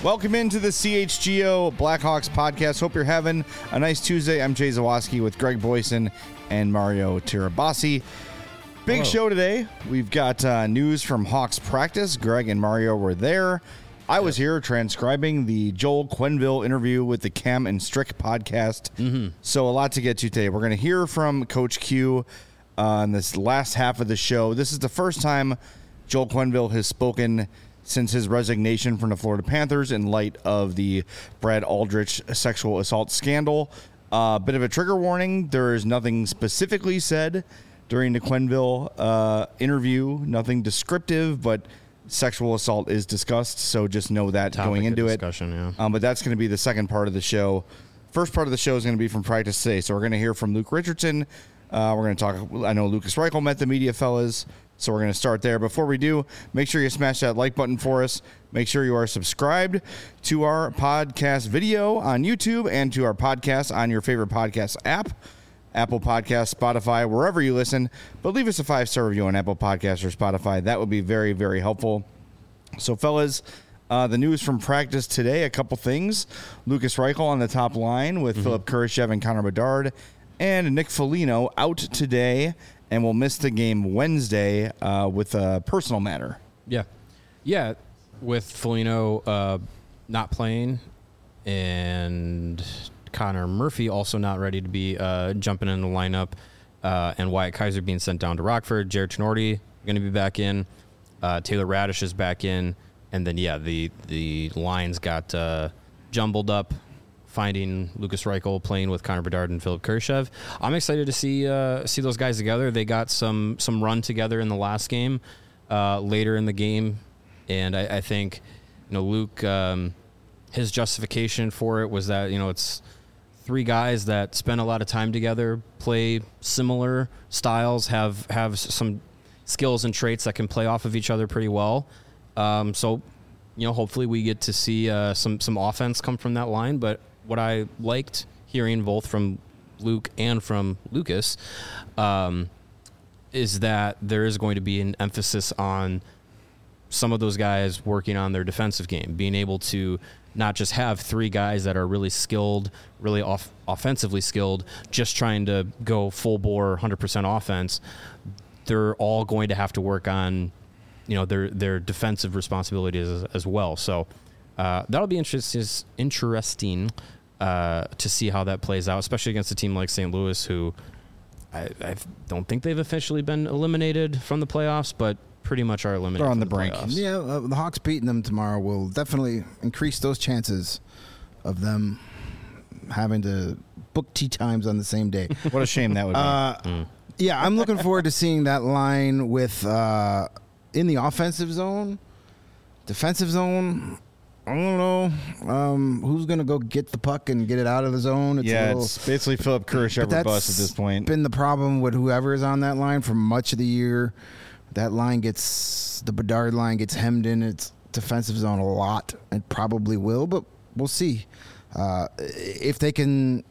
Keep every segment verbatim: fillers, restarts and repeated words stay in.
Welcome into the C H G O Blackhawks podcast. Hope you're having a nice Tuesday. I'm Jay Zawaski with Greg Boyson and Mario Tirabassi. Big Hello. show today. We've got uh, news from Hawks practice. Greg and Mario were there. I was here transcribing the Joel Quenneville interview with the Cam and Strick podcast. Mm-hmm. So a lot to get to today. We're going to hear from Coach Q uh, in this last half of the show. This is the first time Joel Quenneville has spoken since his resignation from the Florida Panthers in light of the Brad Aldrich sexual assault scandal. A uh, bit of a trigger warning. There is nothing specifically said during the Quenneville uh, interview, nothing descriptive, but sexual assault is discussed, so just know that Topic going into of it. discussion, yeah. Um, but that's going to be the second part of the show. First part of the show is going to be from practice today, so we're going to hear from Luke Richardson. Uh, we're going to talk, I know Lucas Reichel met the media fellas, so we're going to start there. Before we do, make sure you smash that like button for us. Make sure you are subscribed to our podcast video on YouTube and to our podcast on your favorite podcast app, Apple Podcasts, Spotify, wherever you listen. But leave us a five-star review on Apple Podcasts or Spotify. That would be very, very helpful. So, fellas, uh, the news from practice today, a couple things. Lucas Reichel on the top line with mm-hmm. Philip Kurashev and Connor Bedard. And Nick Foligno out today and will miss the game Wednesday uh, with a personal matter. Yeah. Yeah, with Foligno uh, not playing and Connor Murphy also not ready to be uh, jumping in the lineup, uh, and Wyatt Kaiser being sent down to Rockford. Jared Tenorti going to be back in. Uh, Taylor Radish is back in. And then, yeah, the, the lines got uh, jumbled up, finding Lucas Reichel playing with Connor Bedard and Philip Kurashev. I'm excited to see uh, see those guys together. They got some some run together in the last game, uh, later in the game, and I, I think, you know, Luke, um, his justification for it was that, you know, it's three guys that spend a lot of time together, play similar styles, have have some skills and traits that can play off of each other pretty well. Um, so, you know, hopefully we get to see uh, some some offense come from that line, but what I liked hearing both from Luke and from Lucas um, is that there is going to be an emphasis on some of those guys working on their defensive game, being able to not just have three guys that are really skilled, really off- offensively skilled, just trying to go full bore one hundred percent offense. They're all going to have to work on, you know, their their defensive responsibilities as, as well. So uh, that'll be interesting. Interesting uh, to see how that plays out, especially against a team like Saint Louis, who I, I don't think they've officially been eliminated from the playoffs, but pretty much are eliminated. They're on the from brink. playoffs. Yeah, uh, the Hawks beating them tomorrow will definitely increase those chances of them having to book tea times on the same day. What a shame that would be. Uh, Mm. Yeah, I'm looking forward to seeing that line with uh, in the offensive zone, defensive zone. I don't know um, who's going to go get the puck and get it out of the zone. It's yeah, a little, it's basically Philip Kurashev or bust at this point. Been the problem with whoever is on that line for much of the year. That line gets the Bedard line gets hemmed in its defensive zone a lot. It probably will, but we'll see uh, if they can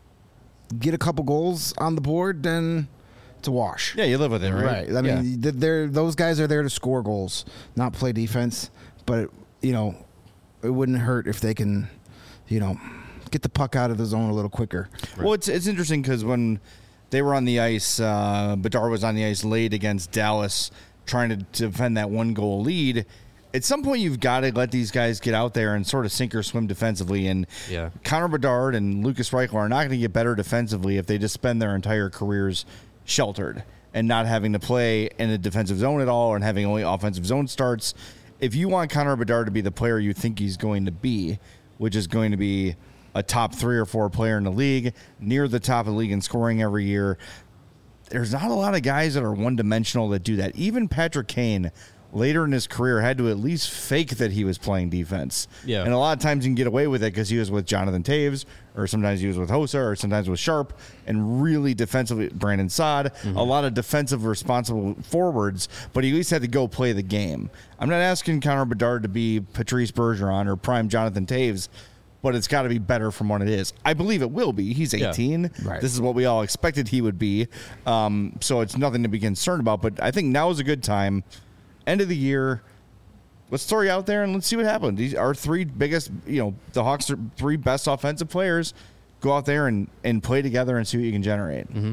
get a couple goals on the board. Then it's a wash. Yeah, you live with it, right? Right. I mean, yeah. they're those guys are there to score goals, not play defense. But you know, it wouldn't hurt if they can, you know, get the puck out of the zone a little quicker. Right. Well, it's it's interesting because when they were on the ice, uh, Bedard was on the ice late against Dallas, trying to defend that one goal lead. At some point, you've got to let these guys get out there and sort of sink or swim defensively. And yeah. Connor Bedard and Lucas Reichel are not going to get better defensively if they just spend their entire careers sheltered and not having to play in a defensive zone at all and having only offensive zone starts. If you want Connor Bedard to be the player you think he's going to be, which is going to be a top three or four player in the league, near the top of the league in scoring every year, there's not a lot of guys that are one-dimensional that do that. Even Patrick Kane, later in his career, had to at least fake that he was playing defense. Yeah. And a lot of times you can get away with it because he was with Jonathan Taves, or sometimes he was with Hossa, or sometimes with Sharp, and really defensively, Brandon Saad, mm-hmm. a lot of defensive responsible forwards, but he at least had to go play the game. I'm not asking Connor Bedard to be Patrice Bergeron or prime Jonathan Taves, but it's got to be better from what it is. I believe it will be. He's eighteen. Yeah, right. This is what we all expected he would be. Um, so it's nothing to be concerned about, but I think now is a good time. End of the year, let's throw you out there and let's see what happens. These are three biggest, you know, the Hawks are three best offensive players. Go out there and, and play together and see what you can generate. Mm-hmm.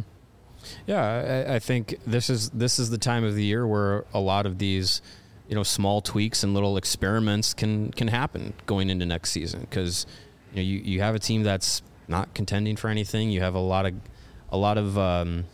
Yeah, I, I think this is this is the time of the year where a lot of these, you know, small tweaks and little experiments can can happen going into next season, because you know you, you have a team that's not contending for anything. You have a lot of a lot of um,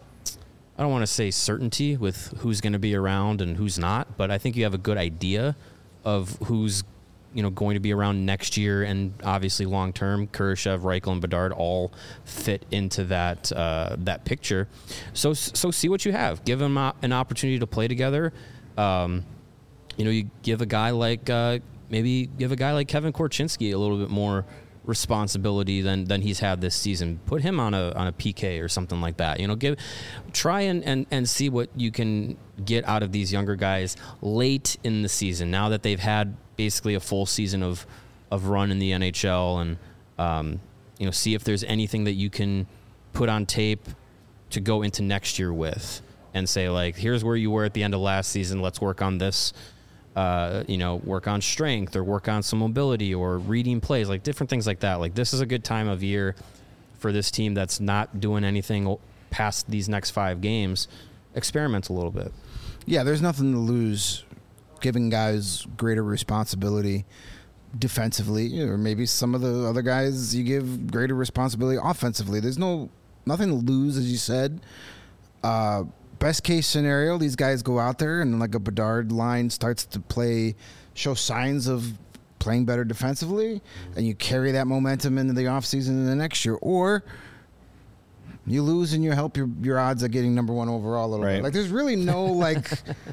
I don't want to say certainty with who's going to be around and who's not, but I think you have a good idea of who's, you know, going to be around next year, and obviously long term. Kurashev, Reichel, and Bedard all fit into that uh, that picture. So so see what you have. Give them an opportunity to play together. Um, you know, you give a guy like uh, maybe give a guy like Kevin Korchinski a little bit more responsibility than than he's had this season. Put him on a on a P K or something like that. You know, give try and, and, and see what you can get out of these younger guys late in the season, now that they've had basically a full season of of run in the N H L, and um, you know, see if there's anything that you can put on tape to go into next year with, and say, like, here's where you were at the end of last season. Let's work on this. Uh, you know, work on strength or work on some mobility or reading plays, like different things like that. Like, this is a good time of year for this team that's not doing anything past these next five games. Experiment a little bit. Yeah, there's nothing to lose giving guys greater responsibility defensively, or maybe some of the other guys you give greater responsibility offensively. There's no nothing to lose, as you said. Uh, best case scenario, these guys go out there and like a Bedard line starts to play, show signs of playing better defensively, and you carry that momentum into the offseason in the next year. Or you lose and you help your, your odds of getting number one overall a little right. bit. Like, there's really no like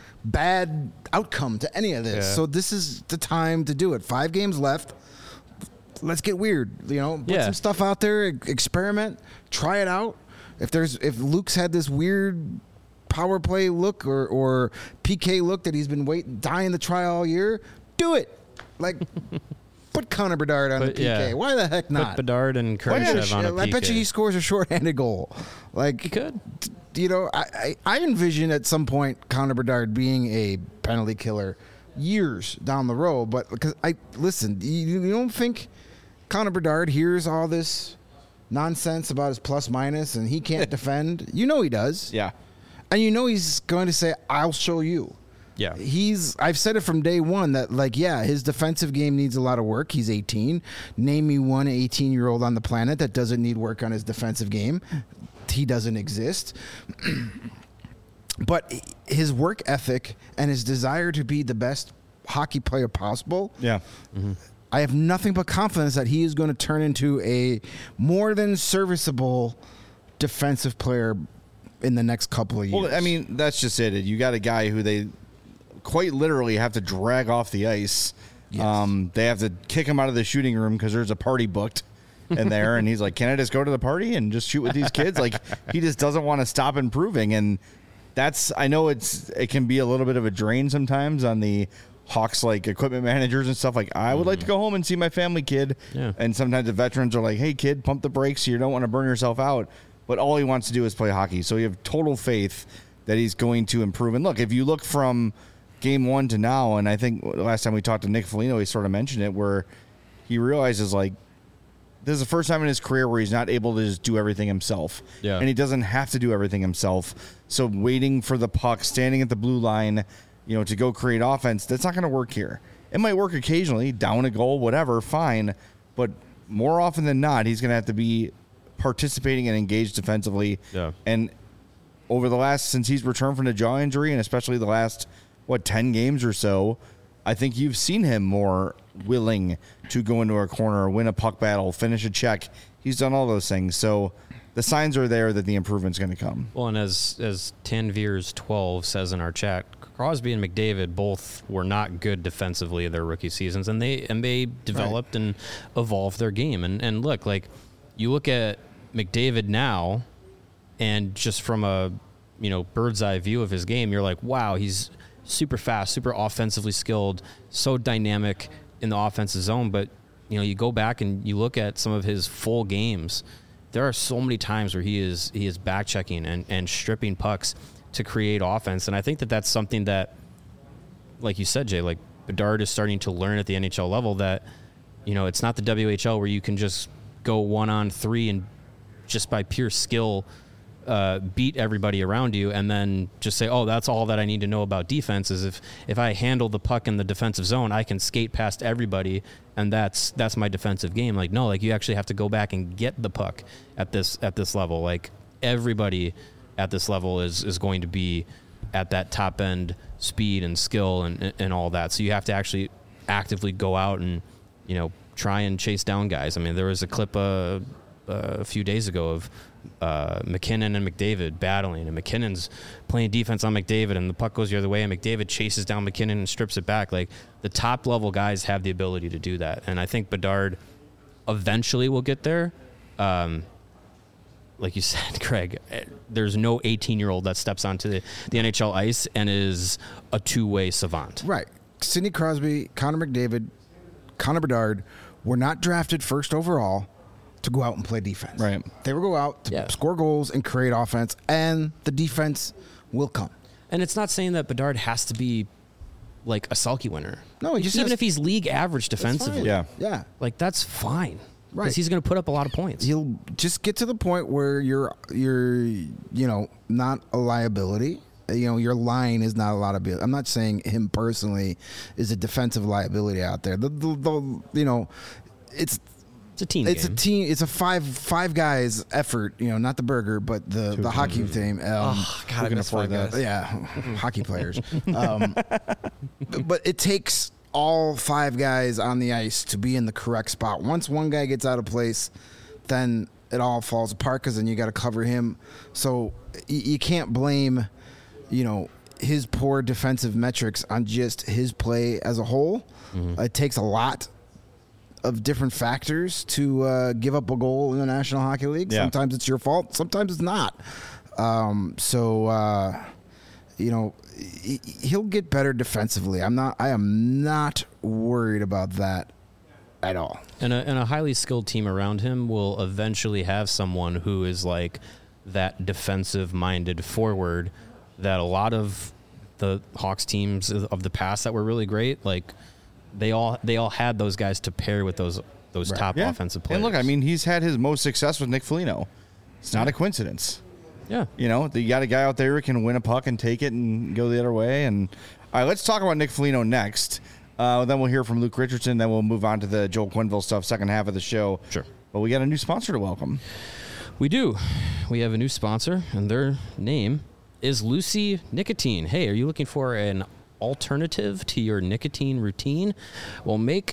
bad outcome to any of this. Yeah. So this is the time to do it. Five games left. Let's get weird. You know, put Yeah. some stuff out there, e- experiment, try it out. If there's if Luke's had this weird power play look or, or P K look that he's been waiting, dying to try all year, do it. Like, put Connor Bedard on But, the P K. yeah. Why the heck not? Put Bedard and Why not? Kurashev on a I P K. bet you he scores a shorthanded goal. Like, He could. you know, I, I, I envision at some point Connor Bedard being a penalty killer years down the road. But because I listen, you, you don't think Connor Bedard hears all this nonsense about his plus minus and he can't defend? You know he does. Yeah. And you know he's going to say, I'll show you. Yeah. He's I've said it from day one that, like, yeah, his defensive game needs a lot of work. He's eighteen. Name me one eighteen-year-old on the planet that doesn't need work on his defensive game. He doesn't exist. But his work ethic and his desire to be the best hockey player possible, Yeah. Mm-hmm. I have nothing but confidence that he is going to turn into a more than serviceable defensive player in the next couple of years. Well, I mean, that's just it. You got a guy who they quite literally have to drag off the ice. Yes. Um, they have to kick him out of the shooting room because there's a party booked in there, and he's like, "Can I just go to the party and just shoot with these kids?" Like, he just doesn't want to stop improving, and that's I know it's it can be a little bit of a drain sometimes on the Hawks, like equipment managers and stuff. Like, I would like to go home and see my family, kid. Yeah. And sometimes the veterans are like, "Hey, kid, pump the brakes. You don't want to burn yourself out." But all he wants to do is play hockey. So you have total faith that he's going to improve. And look, if you look from game one to now, and I think last time we talked to Nick Foligno, he sort of mentioned it, where he realizes, like, this is the first time in his career where he's not able to just do everything himself. Yeah. And he doesn't have to do everything himself. So waiting for the puck, standing at the blue line, you know, to go create offense, that's not going to work here. It might work occasionally, down a goal, whatever, fine. But more often than not, he's going to have to be participating and engaged defensively. Yeah. And over the last, since he's returned from the jaw injury, and especially the last, what, ten games or so, I think you've seen him more willing to go into a corner, win a puck battle, finish a check. He's done all those things. So the signs are there that the improvement's going to come. Well, and as as Tanveers twelve says in our chat, Crosby and McDavid both were not good defensively in their rookie seasons, and they and they developed right. and evolved their game. And and look, like, you look at McDavid now, and just from a you know bird's eye view of his game, you're like, wow, he's super fast, super offensively skilled, so dynamic in the offensive zone. But you know, you go back and you look at some of his full games. There are so many times where he is he is back checking and, and stripping pucks to create offense, and I think that that's something that, like you said, Jay, like Bedard is starting to learn at the N H L level that, you know, it's not the W H L where you can just go one on three and just by pure skill uh, beat everybody around you and then just say, oh, that's all that I need to know about defense is if, if I handle the puck in the defensive zone, I can skate past everybody and that's that's my defensive game. Like, no, like you actually have to go back and get the puck at this at this level. Like everybody at this level is, is going to be at that top end speed and skill and, and all that. So you have to actually actively go out and, you know, try and chase down guys. I mean, there was a clip uh, uh, a few days ago of uh, McKinnon and McDavid battling, and McKinnon's playing defense on McDavid, and the puck goes the other way, and McDavid chases down McKinnon and strips it back. Like, the top-level guys have the ability to do that, and I think Bedard eventually will get there. Um, like you said, Craig, there's no eighteen-year-old that steps onto the, the N H L ice and is a two-way savant. Right. Sidney Crosby, Connor McDavid, Connor Bedard were not drafted first overall to go out and play defense. Right. They will go out to Yeah. score goals and create offense, and the defense will come. And it's not saying that Bedard has to be like a Selke winner. No, he just even has- if he's league average defensively. Yeah. Yeah. Like, that's fine. Right. Because he's going to put up a lot of points. He'll just get to the point where you're you're you know not a liability. You know, your line is not a lot of. I'm not saying him personally is a defensive liability out there. The, the, the you know, it's It's a team it's game. a team. It's a five five guys effort. You know, not the burger, but the the hockey team. Um, Oh, God, I can miss afford Five that? Guys. yeah, hockey players. Um, but it takes all five guys on the ice to be in the correct spot. Once one guy gets out of place, then it all falls apart because then you got to cover him. So y- you can't blame, you know, his poor defensive metrics on just his play as a whole. Mm-hmm. It takes a lot of different factors to uh, give up a goal in the National Hockey League. Yeah. Sometimes it's your fault. Sometimes it's not. Um, so, uh, you know, he- he'll get better defensively. I'm not. I am not worried about that at all. And a, and a highly skilled team around him will eventually have someone who is like that defensive-minded forward that a lot of the Hawks teams of the past that were really great, like they all they all had those guys to pair with those those top Yeah. offensive players. And look, I mean, he's had his most success with Nick Foligno. It's not a coincidence. yeah. You know, you got a guy out there who can win a puck and take it and go the other way. And all right, let's talk about Nick Foligno next. Uh, then we'll hear from Luke Richardson. Then we'll move on to the Joel Quenneville stuff, second half of the show. Sure. But we got a new sponsor to welcome. We do. We have a new sponsor, and their name is Lucy Nicotine. Hey, are you looking for an alternative to your nicotine routine? Well, make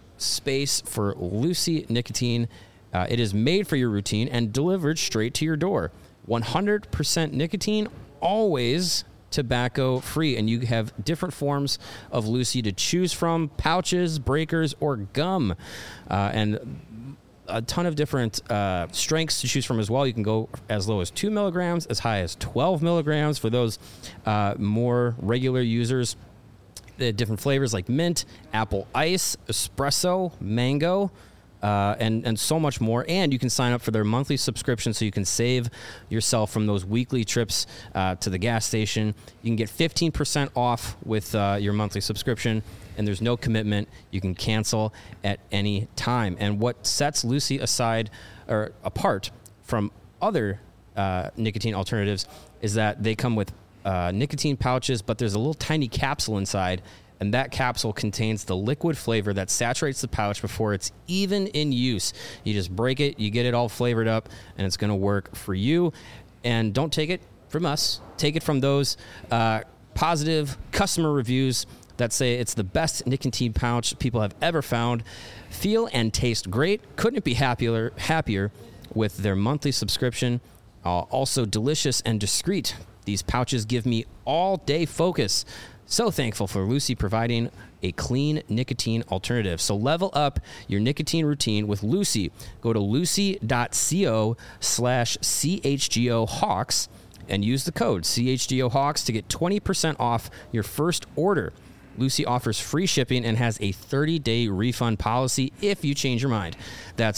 space for Lucy Nicotine. Uh, it is made for your routine and delivered straight to your door. one hundred percent nicotine, always tobacco free, and you have different forms of Lucy to choose from: pouches, breakers, or gum. Uh, and a ton of different uh, strengths to choose from as well. You can go as low as two milligrams, as high as twelve milligrams for those uh, more regular users. The different flavors like mint, apple ice, espresso, mango, uh, and, and so much more. And you can sign up for their monthly subscription so you can save yourself from those weekly trips uh, to the gas station. You can get fifteen percent off with uh, your monthly subscription, and there's no commitment. You can cancel at any time. And what sets Lucy aside or apart from other uh, nicotine alternatives is that they come with uh, nicotine pouches, but there's a little tiny capsule inside, and that capsule contains the liquid flavor that saturates the pouch before it's even in use. You just break it, you get it all flavored up, and it's going to work for you. And don't take it from us. Take it from those uh, positive customer reviews that say it's the best nicotine pouch people have ever found. Feel and taste great. Couldn't be happier happier with their monthly subscription. Uh, also delicious and discreet. These pouches give me all-day focus. So thankful for Lucy providing a clean nicotine alternative. So level up your nicotine routine with Lucy. Go to lucy.co slash CHGO Hawks and use the code C H G O Hawks to get twenty percent off your first order. Lucy offers free shipping and has a thirty-day refund policy if you change your mind. That's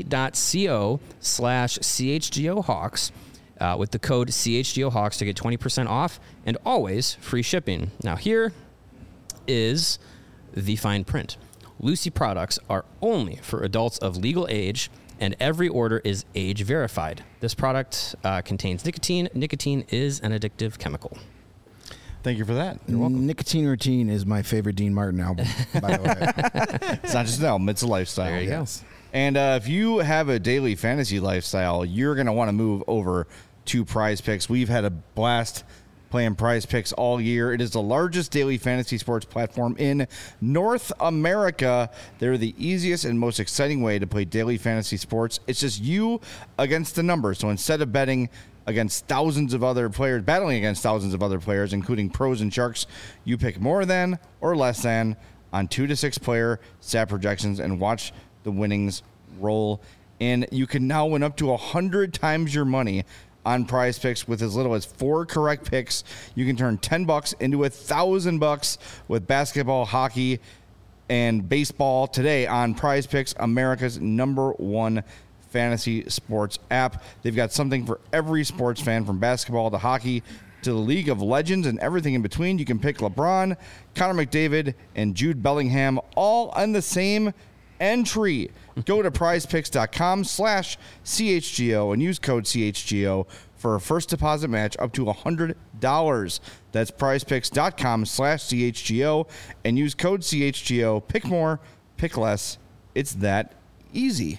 lucy.co slash CHGO Hawks uh, with the code C H G O Hawks to get twenty percent off and always free shipping. Now here is the fine print. Lucy products are only for adults of legal age, and every order is age verified. This product uh, contains nicotine. Nicotine is an addictive chemical. Thank you for that. You're welcome. Nicotine Routine is my favorite Dean Martin album, by the way. It's not just an album, it's a lifestyle. There you Yes. go. And uh, if you have a daily fantasy lifestyle, you're going to want to move over to Prize Picks. We've had a blast playing Prize Picks all year. It is the largest daily fantasy sports platform in North America. They're the easiest and most exciting way to play daily fantasy sports. It's just you against the numbers. So instead of betting against thousands of other players, battling against thousands of other players, including pros and sharks, you pick more than or less than on two to six player stat projections and watch the winnings roll in. You can now win up to one hundred times your money on Prize Picks with as little as four correct picks. You can turn ten bucks into a thousand bucks with basketball, hockey, and baseball today on Prize Picks, America's number one fantasy sports app. They've got something for every sports fan, from basketball to hockey to the League of Legends and everything in between. You can pick LeBron, Connor McDavid, and Jude Bellingham all on the same entry. Go to prizepicks.com slash CHGO and use code C H G O for a first deposit match up to one hundred dollars. That's prizepicks.com slash CHGO and use code C H G O. Pick more, pick less. It's that easy.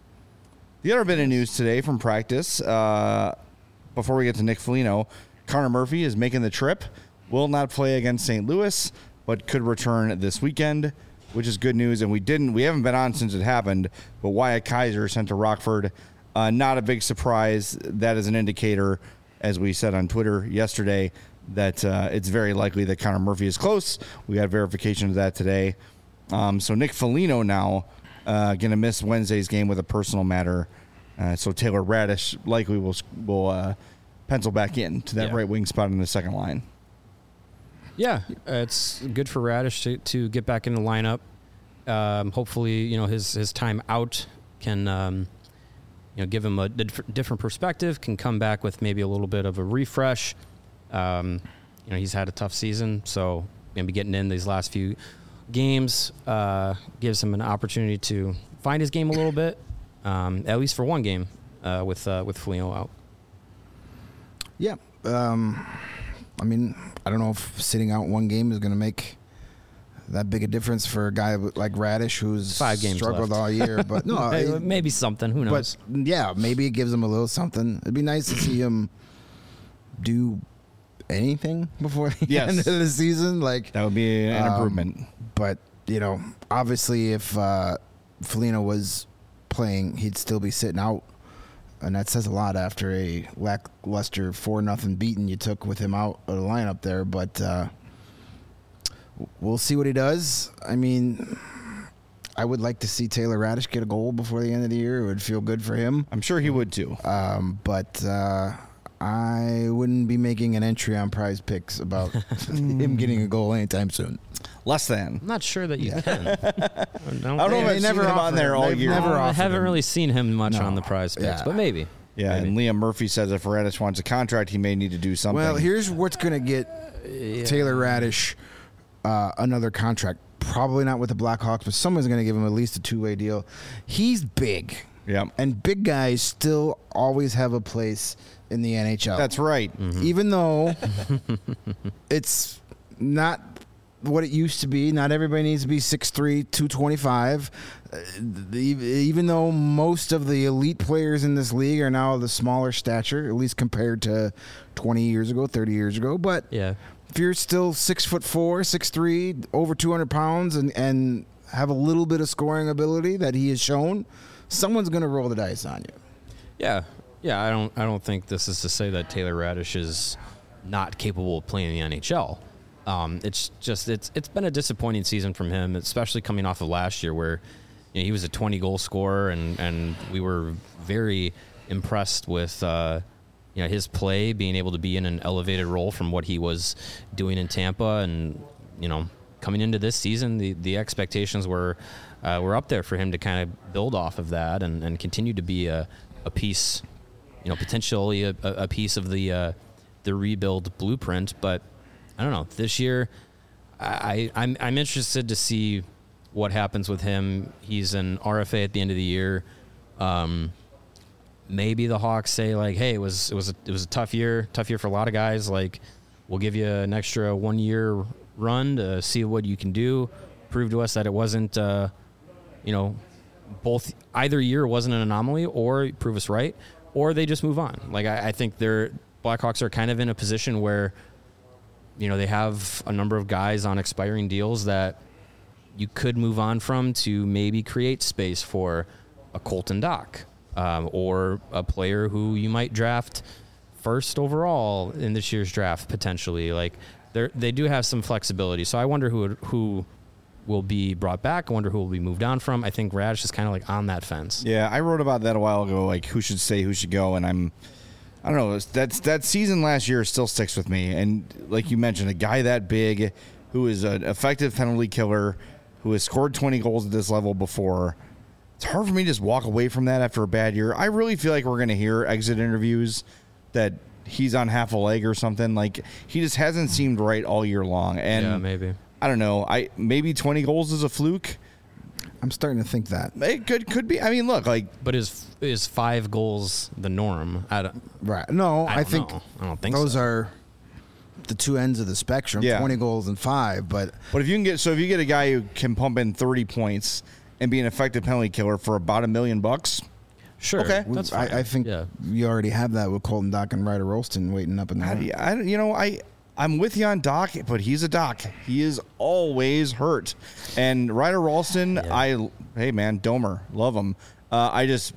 The other bit of news today from practice, uh, before we get to Nick Foligno, Connor Murphy is making the trip, will not play against Saint Louis, but could return this weekend, which is good news. And we didn't, we haven't been on since it happened, but Wyatt Kaiser sent to Rockford. Uh, not a big surprise. That is an indicator, as we said on Twitter yesterday, that uh, it's very likely that Connor Murphy is close. We got verification of that today. Um, so Nick Foligno now uh, going to miss Wednesday's game with a personal matter. Uh, so Taylor Radish likely will will uh, pencil back in to that Yeah. right wing spot in the second line. Yeah, it's good for Radish to, to get back in the lineup. Um, hopefully, you know, his, his time out can, um, you know, give him a dif- different perspective, can come back with maybe a little bit of a refresh. Um, you know, he's had a tough season, so maybe getting in these last few games uh, gives him an opportunity to find his game a little bit, um, at least for one game uh, with uh, with Foligno out. Yeah. Um, I mean, I don't know if sitting out one game is going to make that big a difference for a guy like Radish, who's Five games struggled left. all year. But no, maybe, I- maybe something. Who knows? but yeah, maybe it gives him a little something. It'd be nice to see him do anything before the Yes. end of the season. Like, That would be an Um, improvement. but you know, obviously, if uh, Foligno was playing, he'd still be sitting out, and that says a lot after a lackluster four nothing beating you took with him out of the lineup there. But uh, we'll see what he does. I mean, I would like to see Taylor Radish get a goal before the end of the year. It would feel good for him. I'm sure he would too. Um, but uh, I wouldn't be making an entry on Prize Picks about him getting a goal anytime soon. Less than. I'm not sure that you can. I don't, I don't know They- if they I've never seen him on offer there it. all They've year. never I offered haven't him. really seen him much No. on the Prize Picks, Yeah. but maybe. Yeah, Maybe. and Liam Murphy says if Radish wants a contract, he may need to do something. Well, here's what's going to get Taylor Radish uh, another contract. Probably not with the Blackhawks, but someone's going to give him at least a two-way deal. He's big, yeah, and big guys still always have a place in the N H L. that's right. Even though it's not what it used to be. Not everybody needs to be six three, two twenty-five. Uh, the- even though most of the elite players in this league are now the smaller stature, at least compared to twenty years ago, thirty years ago. But Yeah. if you're still six foot four, six three, over two hundred pounds, and, and have a little bit of scoring ability that he has shown, someone's going to roll the dice on you. Yeah. Yeah, I don't I don't think this is to say that Taylor Radish is not capable of playing in the N H L. Um, it's just it's it's been a disappointing season from him, especially coming off of last year where you know, he was a twenty goal scorer and, and we were very impressed with uh, you know his play, being able to be in an elevated role from what he was doing in Tampa, and you know coming into this season the, the expectations were uh, were up there for him to kind of build off of that and, and continue to be a, a piece, you know, potentially a, a piece of the uh, the rebuild blueprint. But I don't know. This year, I, I'm I'm interested to see what happens with him. He's an R F A at the end of the year. Um, maybe the Hawks say like, hey, it was it was a, it was a tough year, tough year for a lot of guys. Like, we'll give you an extra one year run to see what you can do. Prove to us that it wasn't, uh, you know, both either year wasn't an anomaly, or prove us right, or they just move on. Like, I, I think they're Blackhawks are kind of in a position where, you know, they have a number of guys on expiring deals that you could move on from to maybe create space for a Colton Dock, um, or a player who you might draft first overall in this year's draft potentially. Like, they they do have some flexibility. So I wonder who who will be brought back. I wonder who will be moved on from. I think Radish is kind of like on that fence. Yeah, I wrote about that a while ago, like who should stay, who should go, and I'm, I don't know, that's that season last year still sticks with me. And like you mentioned, a guy that big, who is an effective penalty killer, who has scored twenty goals at this level before. It's hard for me to just walk away from that after a bad year. I really feel like we're going to hear exit interviews that he's on half a leg or something. Like, he just hasn't seemed right all year long. And Yeah, maybe. I don't know. I maybe twenty goals is a fluke. I'm starting to think that. It could could be. I mean, look, like, But is is five goals the norm? I don't, Right. No, I I, don't think know. I don't think those so. are the two ends of the spectrum, Yeah. twenty goals and five. But but if you can get so if you get a guy who can pump in thirty points and be an effective penalty killer for about a million bucks, Sure. Okay. That's fine. I, I think Yeah. you already have that with Colton Dock and Ryder Rolston waiting up in the I, I you know I. I'm with you on Doc, but he's a Doc. He is always hurt. And Ryder Ralston, Yeah. I hey man, Domer, love him. Uh, I just,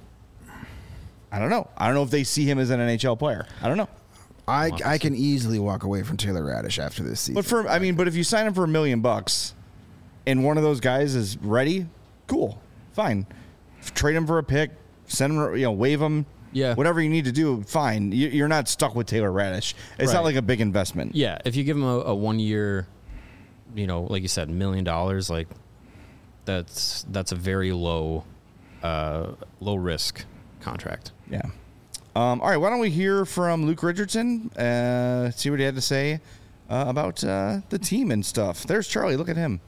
I don't know. I don't know if they see him as an N H L player. I don't know. I, I can easily walk away from Taylor Radish after this season. But for I mean, but if you sign him for a million bucks, and one of those guys is ready, cool, fine. Trade him for a pick, send him, you know, waive him. Yeah. Whatever you need to do, fine. You- You're not stuck with Taylor Radish. It's not Right. like a big investment. Yeah, if you give him a, a one year, you know, like you said, million dollars, like that's that's a very low, uh, low risk contract. Yeah. Um, all right. Why don't we hear from Luke Richardson? Uh, see what he had to say uh, about uh, the team and stuff. There's Charlie. Look at him.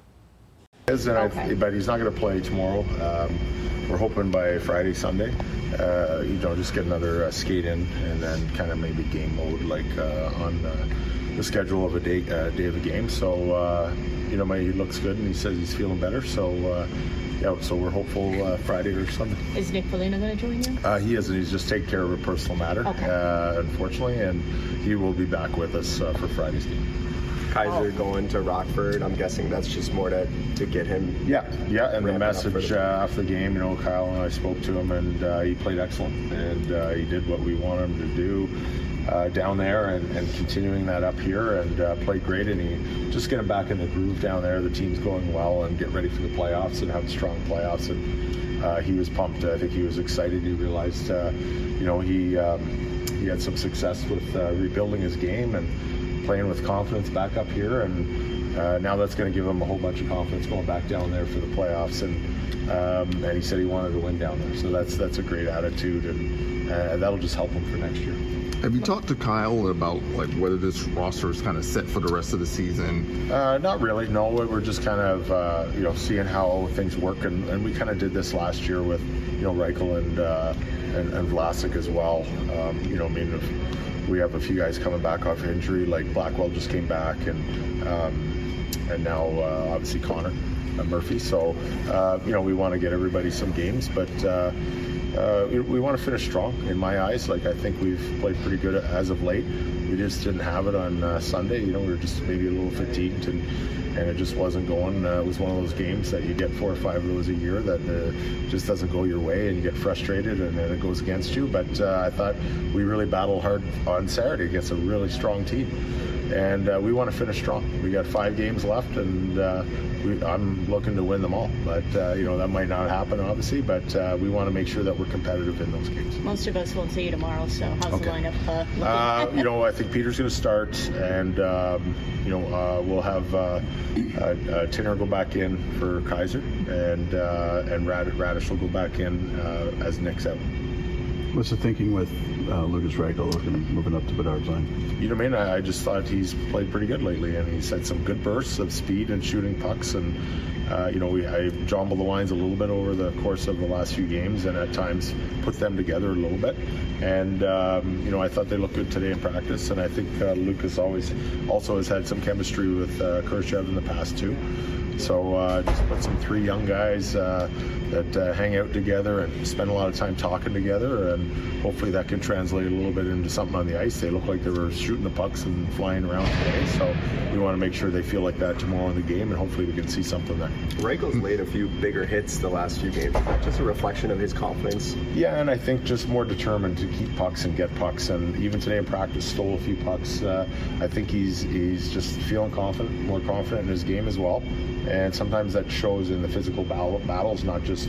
Is, and Okay. I, but he's not going to play tomorrow. Um, we're hoping by Friday, Sunday, uh, you know, just get another uh, skate in, and then kind of maybe game mode like uh, on uh, the schedule of a day uh, day of a game. So uh, you know, my, he looks good, and he says he's feeling better. So uh, yeah, so we're hopeful uh, Friday or Sunday. Is Nick Foligno going to join you? Uh, he isn't. He's just taking care of a personal matter, Okay. uh, unfortunately, and he will be back with us uh, for Friday's game. Kaiser going to Rockford. I'm guessing that's just more to, to get him. Yeah, yeah, and the ramping up for message the- uh, after the game, you know, Kyle and I spoke to him, and uh, he played excellent, and uh, he did what we wanted him to do uh, down there, and, and continuing that up here, and uh, played great, and he just getting back in the groove down there. The team's going well, and get ready for the playoffs, and have strong playoffs, and uh, he was pumped. I think he was excited. He realized, uh, you know, he um, he had some success with uh, rebuilding his game and playing with confidence back up here, and uh, now that's going to give him a whole bunch of confidence going back down there for the playoffs. And um, and he said he wanted to win down there, so that's that's a great attitude, and uh, that'll just help him for next year. Have you talked to Kyle about like whether this roster is kind of set for the rest of the season? Uh, not really. No, we're just kind of uh, you know seeing how things work, and, and we kind of did this last year with you know Reichel and uh, and, and Vlasic as well. Um, you know, I mean, if we have a few guys coming back off injury, like Blackwell just came back, and um, and now uh, obviously Connor uh, Murphy. So uh, you know we want to get everybody some games, but. Uh, Uh, we, we want to finish strong in my eyes. Like, I think we've played pretty good as of late. We just didn't have it on uh, Sunday. You know, we were just maybe a little fatigued, and, and it just wasn't going. Uh, it was one of those games that you get four or five of those a year that uh, just doesn't go your way, and you get frustrated, and then it goes against you. But uh, I thought we really battled hard on Saturday against a really strong team. And uh, we want to finish strong. We got five games left, and uh, we, I'm looking to win them all. But uh, you know that might not happen, obviously. But uh, we want to make sure that we're competitive in those games. Most of us won't see you tomorrow, so how's Okay. the lineup uh, looking? Uh, you know, I think Peter's going to start, and um, you know uh, we'll have uh, uh, uh, Tinner go back in for Kaiser, and uh, and Rad- Radish will go back in uh, as Nick's out. What's the thinking with uh, Lucas Reichel looking moving up to Bedard's line? You know what I mean? I, I just thought he's played pretty good lately, and he's had some good bursts of speed and shooting pucks. And uh, you know, we I jumbled the lines a little bit over the course of the last few games, and at times put them together a little bit. And um, you know, I thought they looked good today in practice, and I think uh, Lucas always also has had some chemistry with uh, Khrushchev in the past too. So uh, just put some three young guys uh, that uh, hang out together and spend a lot of time talking together, and hopefully that can translate a little bit into something on the ice. They look like they were shooting the pucks and flying around today, so we want to make sure they feel like that tomorrow in the game, and hopefully we can see something there. Reichel's laid a few bigger hits the last few games. Is that just a reflection of his confidence? Yeah, and I think just more determined to keep pucks and get pucks, and even today in practice stole a few pucks. Uh, I think he's he's just feeling confident, more confident in his game as well. And sometimes that shows in the physical battle, battles, not just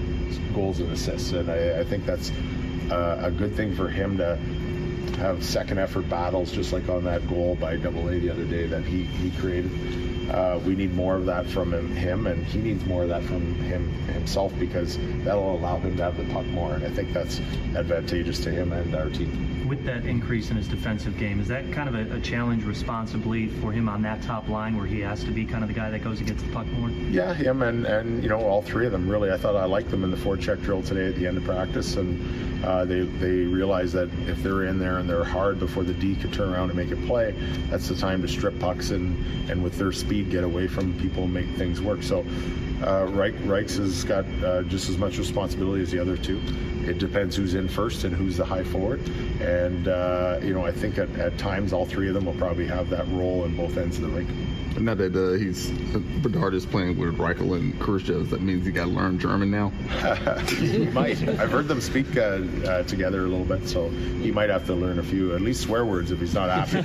goals and assists. And I, I think that's uh, a good thing for him to have second effort battles, just like on that goal by Double A the other day that he, he created. Uh, we need more of that from him, him, and he needs more of that from him himself, because that'll allow him to have the puck more. And I think that's advantageous to him and our team. With that increase in his defensive game, is that kind of a, a challenge responsibly for him on that top line, where he has to be kind of the guy that goes against the puck more? Yeah, him and, and you know, all three of them, really. I thought I liked them in the forecheck drill today at the end of practice, and uh, they, they realized that if they're in there and they're hard before the D could turn around and make a play, that's the time to strip pucks and, and with their speed get away from people and make things work. So uh, Reich, Reichs has got uh, just as much responsibility as the other two. It depends who's in first and who's the high forward. And, uh, you know, I think at, at times all three of them will probably have that role in both ends of the rink. Now that uh, he's uh, Bedard is playing with Reichel and Khrushchev, that means he got to learn German now? He might. I've heard them speak uh, uh, together a little bit, so he might have to learn a few, at least swear words if he's not happy.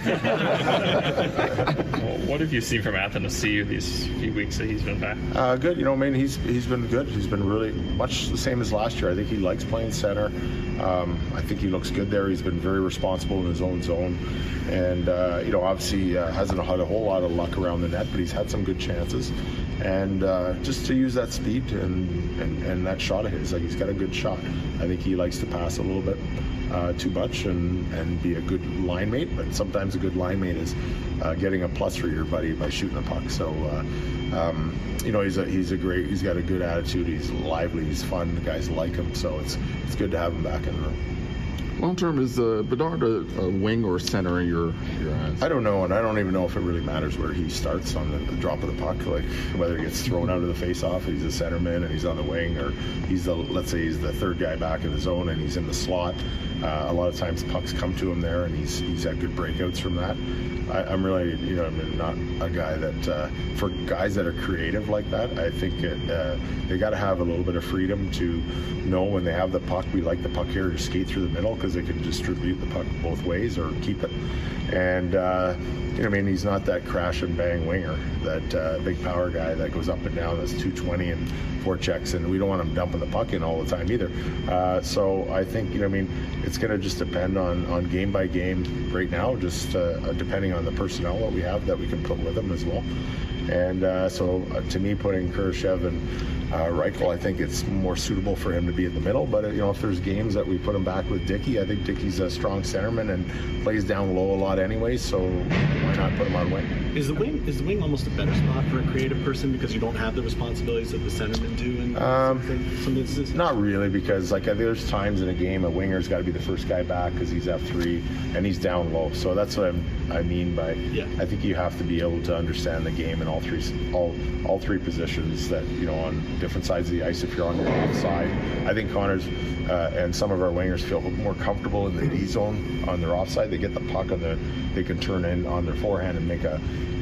Well, what have you seen from Athens C U these few weeks that he's been back? Uh, good. You know, I mean, he's he's been good. He's been really much the same as last year. I think he likes playing center. Um, I think he looks good there. He's been very responsible in his own zone. And, uh, you know, obviously uh, hasn't had a whole lot of luck around the net, but he's had some good chances. And uh, just to use that speed and, and, and that shot of his, like he's got a good shot. I think he likes to pass a little bit uh, too much and, and be a good line mate, but sometimes a good line mate is uh, getting a plus for your buddy by shooting the puck. So, uh, um, you know, he's a, he's a great, he's got a good attitude. He's lively, he's fun. The guys like him, so it's it's good to have him back in the room. Long term, is uh, Bedard a, a wing or center in your, your eyes? I don't know, and I don't even know if it really matters where he starts on the, the drop of the puck, like whether he gets thrown out of the face-off, he's a centerman and he's on the wing, or he's the, let's say he's the third guy back in the zone and he's in the slot. Uh, a lot of times pucks come to him there, and he's he's had good breakouts from that. I, I'm really, you know, I'm not a guy that, uh, for guys that are creative like that, I think it, uh, they got to have a little bit of freedom to know when they have the puck, we like the puck here to skate through the middle, because they can distribute the puck both ways or keep it. And, uh, you know, I mean, he's not that crash and bang winger, that uh, big power guy that goes up and down, that's two twenty and four checks, and we don't want him dumping the puck in all the time either. Uh, so I think, you know, I mean, it's going to just depend on, on game by game right now, just uh, depending on the personnel that we have that we can put with him as well. And uh, so uh, to me, putting Khrushchev and uh, Reichel, I think it's more suitable for him to be in the middle. But, uh, you know, if there's games that we put him back with Dickey, I think Dickey's a strong centerman and plays down low a lot anyway, so why not put him on wing? Is the wing is the wing almost a better spot for a creative person because you don't have the responsibilities that the centermen do in um, some, some instances? Not really, because like there's times in a game a winger's got to be the first guy back because he's F three and he's down low. So that's what I'm, I mean by yeah. I think you have to be able to understand the game in all three all all three positions that, you know, on different sides of the ice if you're on your offside. I think Connor's uh, and some of our wingers feel more comfortable in the D zone on their offside. They get the puck on the they can turn in on their forehand and make a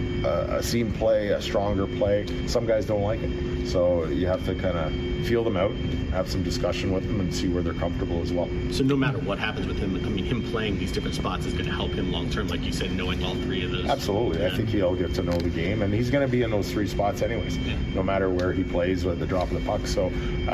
a, a seam play, a stronger play. Some guys don't like it. So you have to kind of feel them out, have some discussion with them, and see where they're comfortable as well. So no matter what happens with him, I mean, him playing these different spots is going to help him long term, like you said, knowing all three of those. Absolutely. Yeah. I think he'll get to know the game, and he's going to be in those three spots anyways, yeah. no matter where he plays with the drop of the puck. So,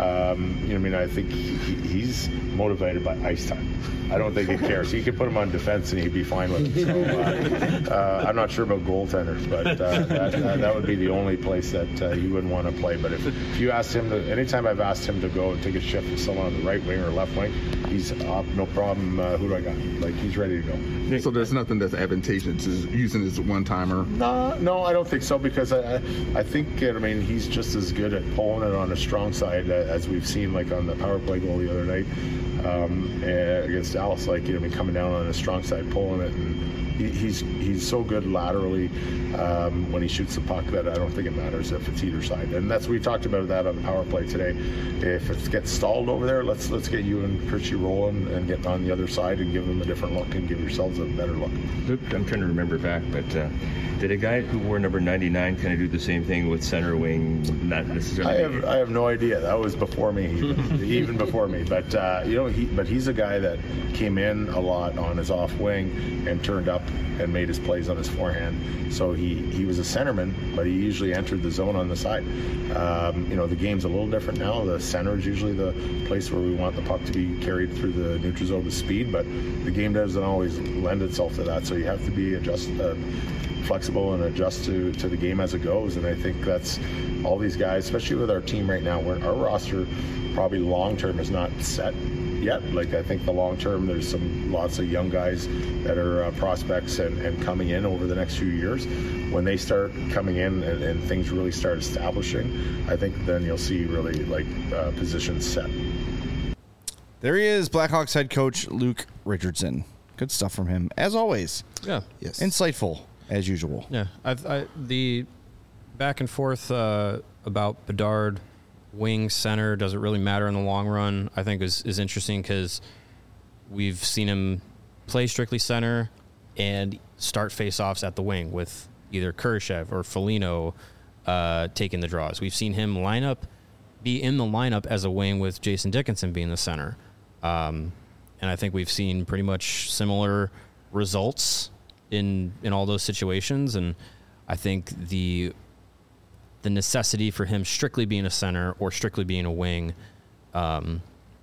um, you know, I mean, I think he, he's motivated by ice time. I don't think he cares. He could put him on defense and he'd be fine with it. So, uh, uh, I'm not sure about goaltenders, but uh, that, uh, that would be the only place that uh, he wouldn't want to play. But if, if you asked him to, anytime I've asked him to go and take a shift with someone on the right wing or left wing, he's uh, no problem. Uh, who do I got? Like he's ready to go. So there's nothing that's advantageous to using his one timer. No, no, I don't think so because I, I, I think I mean he's just as good at pulling it on a strong side as we've seen like on the power play goal the other night um, against Dallas. Like you know, I mean, coming down on a strong side, pulling it, and he, he's he's so good laterally um, when he shoots the puck that I don't think it matters if it's either side. And that's we talked about that on the power play today. If it gets stalled over there, let's let's get you and Chrissy rolling and get on the other side and give them a different look and give yourselves a better look. Luke, I'm trying to remember back, but uh, did a guy who wore number ninety-nine kind of do the same thing with center wing? Not necessarily. I have I have no idea. That was before me, even, even before me. But uh, you know, he but he's a guy that came in a lot on his off wing and turned up and made his plays on his forehand. So he, he was a centerman, but he usually entered the zone on the side. Um, you know, the game's a little different now. The center is usually the place where we want the puck to be carried through the neutral zone with speed, but the game doesn't always lend itself to that. So you have to be adjust, uh, flexible and adjust to, to the game as it goes. And I think that's all these guys, especially with our team right now, where our roster probably long term is not set yet. Like I think the long term, there's some lots of young guys that are uh, prospects and, and coming in over the next few years. When they start coming in and, and things really start establishing, I think then you'll see really like uh, positions set. There he is, Blackhawks head coach Luke Richardson. Good stuff from him, as always. Yeah. Yes. Insightful, as usual. Yeah. I've, I, the back and forth uh, about Bedard, wing, center, does it really matter in the long run, I think is, is interesting because we've seen him play strictly center and start face-offs at the wing with either Kurashev or Foligno uh, taking the draws. We've seen him line up, be in the lineup as a wing with Jason Dickinson being the center. Um, and I think we've seen pretty much similar results in in all those situations. And I think the the necessity for him strictly being a center or strictly being a wing, um,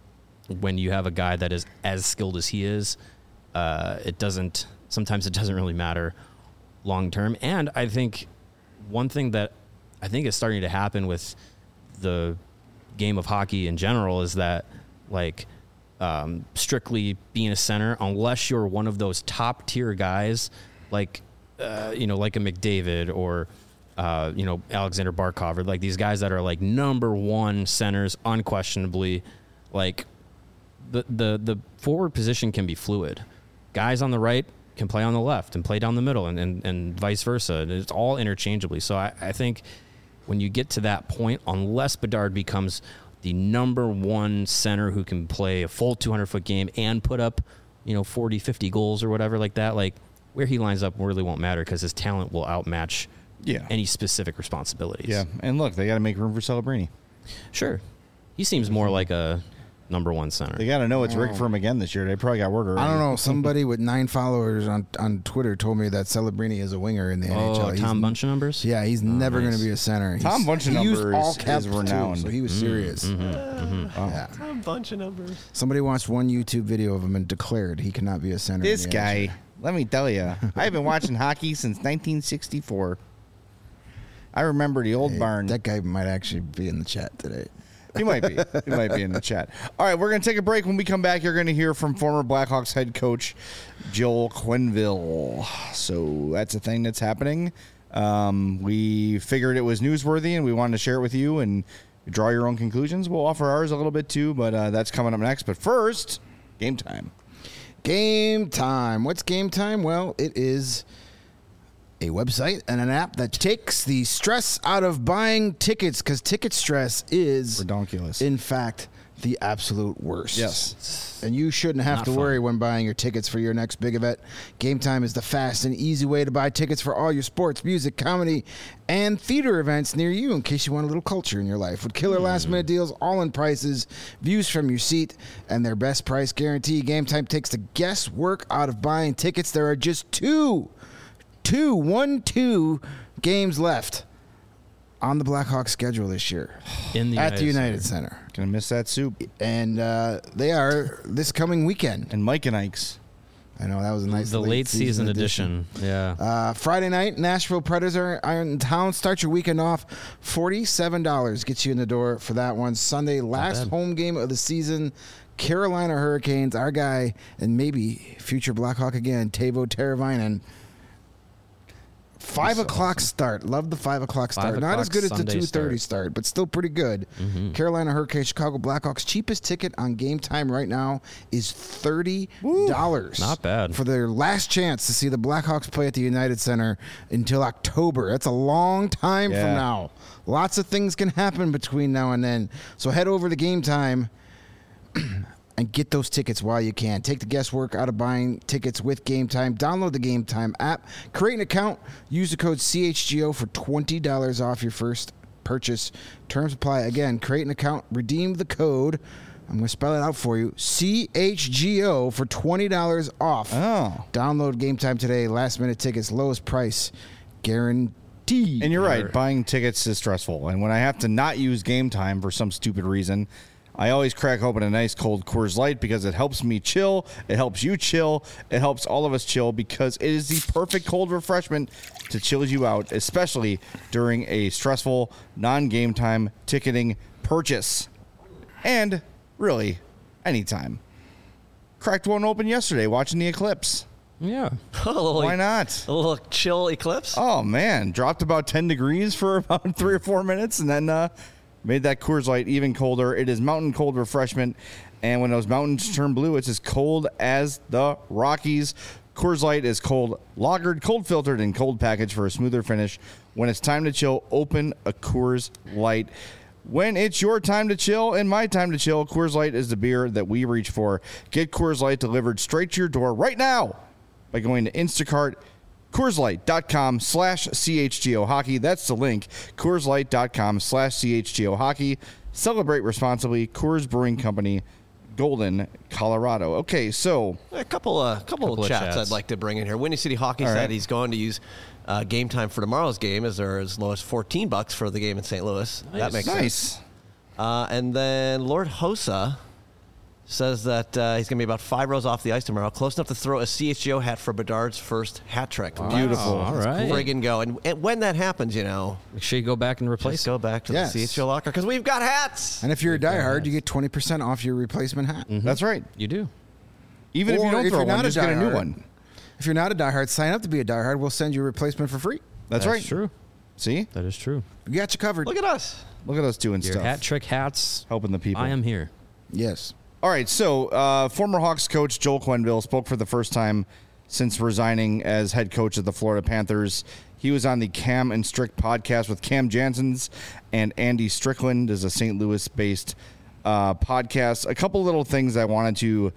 when you have a guy that is as skilled as he is, uh, it doesn't, sometimes it doesn't really matter long term. And I think one thing that I think is starting to happen with the game of hockey in general is that, like, um, strictly being a center, unless you're one of those top tier guys, like, uh, you know, like a McDavid or, uh, you know, Alexander Barkov, or like these guys that are like number one centers, unquestionably, like the, the, the forward position can be fluid. Guys on the right can play on the left and play down the middle, and, and, and vice versa. It's all interchangeably. So I, I think when you get to that point, unless Bedard becomes the number one center who can play a full two hundred foot game and put up, you know, forty, fifty goals or whatever like that, like where he lines up really won't matter because his talent will outmatch yeah. any specific responsibilities. Yeah, and look, they got to make room for Celebrini. Sure. He seems more like a number one center. They got to know it's Rick for him again this year. They probably got word already. I don't know. Somebody with nine followers on, on Twitter told me that Celebrini is a winger in the oh, N H L. Oh, Tom Bunch of numbers? Yeah, he's oh, never nice. going to be a center. Tom He's, Bunch of he numbers used all caps is renowned. Too, so he was serious. Mm-hmm, mm-hmm. Wow. Yeah. Tom Bunch of numbers. Somebody watched one YouTube video of him and declared he cannot be a center. This in the guy, N H L. let me tell you, I've been watching hockey since nineteen sixty-four. I remember the old hey, barn. That guy might actually be in the chat today. He might be. He might be in the chat. All right, we're going to take a break. When we come back, you're going to hear from former Blackhawks head coach Joel Quenneville. So that's a thing that's happening. Um, we figured it was newsworthy, and we wanted to share it with you and draw your own conclusions. We'll offer ours a little bit too, but uh, that's coming up next. But first, game time. Game time. What's game time? Well, it is a website and an app that takes the stress out of buying tickets, because ticket stress is redonkulous. In fact, the absolute worst. Yes. And you shouldn't have Not to fun. worry when buying your tickets for your next big event. Game Time is the fast and easy way to buy tickets for all your sports, music, comedy, and theater events near you, in case you want a little culture in your life. With killer last-minute deals, all-in prices, views from your seat, and their best price guarantee, Game Time takes the guesswork out of buying tickets. There are just two Two, one, two games left on the Blackhawks schedule this year in the at United the United Center. Center. Gonna miss that soup. And uh, they are this coming weekend. And Mike and Ike's. I know, that was a nice The late, late season, edition. edition. Yeah. Uh, Friday night, Nashville Predators are are in town. Start your weekend off. forty-seven dollars gets you in the door for that one. Sunday, last home game of the season. Carolina Hurricanes, our guy, and maybe future Blackhawk again, Teuvo Teravainen. Five That's o'clock awesome. start. Love the five o'clock start. Five Not as o'clock good as the Sunday two thirty start, but still pretty good. Mm-hmm. Carolina Hurricanes, Chicago Blackhawks. Cheapest ticket on Game Time right now is thirty dollars. Not bad. For their last chance to see the Blackhawks play at the United Center until October. That's a long time Yeah. from now. Lots of things can happen between now and then. So head over to Game Time and get those tickets while you can. Take the guesswork out of buying tickets with Game Time. Download the Game Time app. Create an account. Use the code C H G O for twenty dollars off your first purchase. Terms apply. Again, create an account. Redeem the code. I'm going to spell it out for you. C H G O for twenty dollars off. Oh. Download Game Time today. Last minute tickets. Lowest price. Guaranteed. And you're right, buying tickets is stressful. And when I have to not use Game Time for some stupid reason, I always crack open a nice cold Coors Light because it helps me chill. It helps you chill. It helps all of us chill because it is the perfect cold refreshment to chill you out, especially during a stressful non-game time ticketing purchase. And really, anytime. Cracked one open yesterday watching the eclipse. Yeah. A little, Why not? A little chill eclipse. Oh, man. Dropped about ten degrees for about three or four minutes and then uh, made that Coors Light even colder. It is mountain cold refreshment. And when those mountains turn blue, it's as cold as the Rockies. Coors Light is cold lagered, cold filtered, and cold packaged for a smoother finish. When it's time to chill, open a Coors Light. When it's your time to chill and my time to chill, Coors Light is the beer that we reach for. Get Coors Light delivered straight to your door right now by going to Instacart, CoorsLight.com slash CHGO Hockey. That's the link, CoorsLight.com slash CHGO Hockey. Celebrate responsibly. Coors Brewing Company, Golden, Colorado. Okay, so A couple, uh, couple, Couple of of chats, chats. I'd like to bring in here. Windy City Hockey All said right. he's going to use uh, Game Time for tomorrow's game, as they're as low as fourteen bucks for the game in Saint Louis. That Nice. makes nice. sense. Uh, and then Lord Hosa says that uh, he's going to be about five rows off the ice tomorrow, close enough to throw a C H G O hat for Bedard's first hat trick. Beautiful. All right. Friggin' go. And, and when that happens, you know, Make sure you go back and replace just it. go back to Yes. the C H G O locker because we've got hats. And if you're a diehard, you get twenty percent off your replacement hat. That's right. You do. Even if you Or don't if throw you're one, not a just get a new diehard, one. If you're not a diehard, sign up to be a diehard. We'll send you a replacement for free. That's, right. true. See? That is true. We got you covered. Look at us. Look at us doing Your stuff. hat trick hats. Helping the people. I am here. Yes. All right, so uh, former Hawks coach Joel Quenneville spoke for the first time since resigning as head coach of the Florida Panthers. He was on the Cam and Strick podcast with Cam Janssens and Andy Strickland. Is a Saint Louis-based uh, podcast. A couple little things I wanted to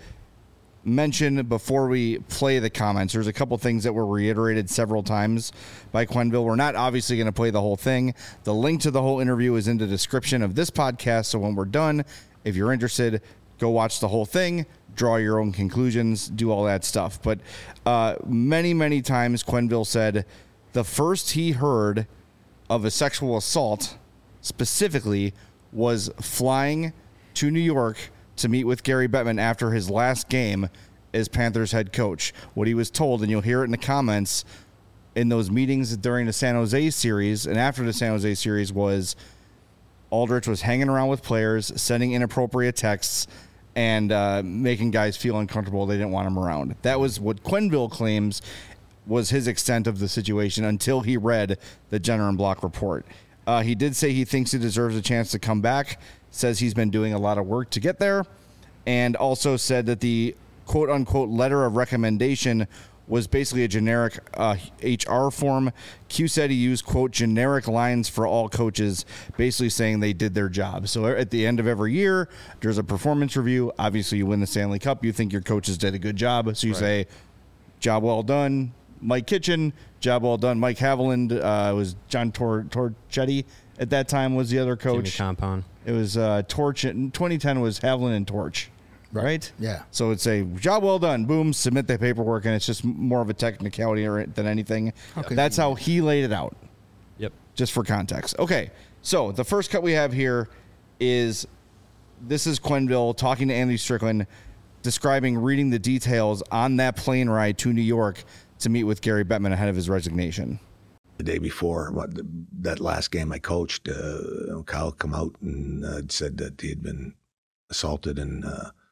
mention before we play the comments. There's a couple things that were reiterated several times by Quenneville. We're not obviously going to play the whole thing. The link to the whole interview is in the description of this podcast, so when we're done, if you're interested, go watch the whole thing, draw your own conclusions, do all that stuff. But uh, many, many times Quenneville said the first he heard of a sexual assault specifically was flying to New York to meet with Gary Bettman after his last game as Panthers head coach. What he was told, and you'll hear it in the comments, in those meetings during the San Jose series and after the San Jose series was Aldrich was hanging around with players, sending inappropriate texts, and uh, making guys feel uncomfortable. They didn't want him around. That was what Quenneville claims was his extent of the situation until he read the Jenner and Block report. Uh, he did say he thinks he deserves a chance to come back, says he's been doing a lot of work to get there, and also said that the quote-unquote letter of recommendation was basically a generic uh, H R form. Q said he used, quote, generic lines for all coaches, basically saying they did their job. So at the end of every year, there's a performance review. Obviously, you win the Stanley Cup. You think your coaches did a good job. So you Right. say, job well done, Mike Kitchen. Job well done, Mike Haviland. Uh, it was John Tor- Torchetti at that time was the other coach. Jimmy Compound. It was uh, Torch. In twenty ten was Haviland and Torch. Right? Yeah. So it's a job well done. Boom, submit the paperwork, and it's just more of a technicality or- than anything. Okay. That's how he laid it out, Yep. just for context. Okay, so the first cut we have here is this is Quenneville talking to Andy Strickland, describing reading the details on that plane ride to New York to meet with Gary Bettman ahead of his resignation. The day before what, that last game I coached, uh, Kyle come out and uh, said that he had been assaulted and uh,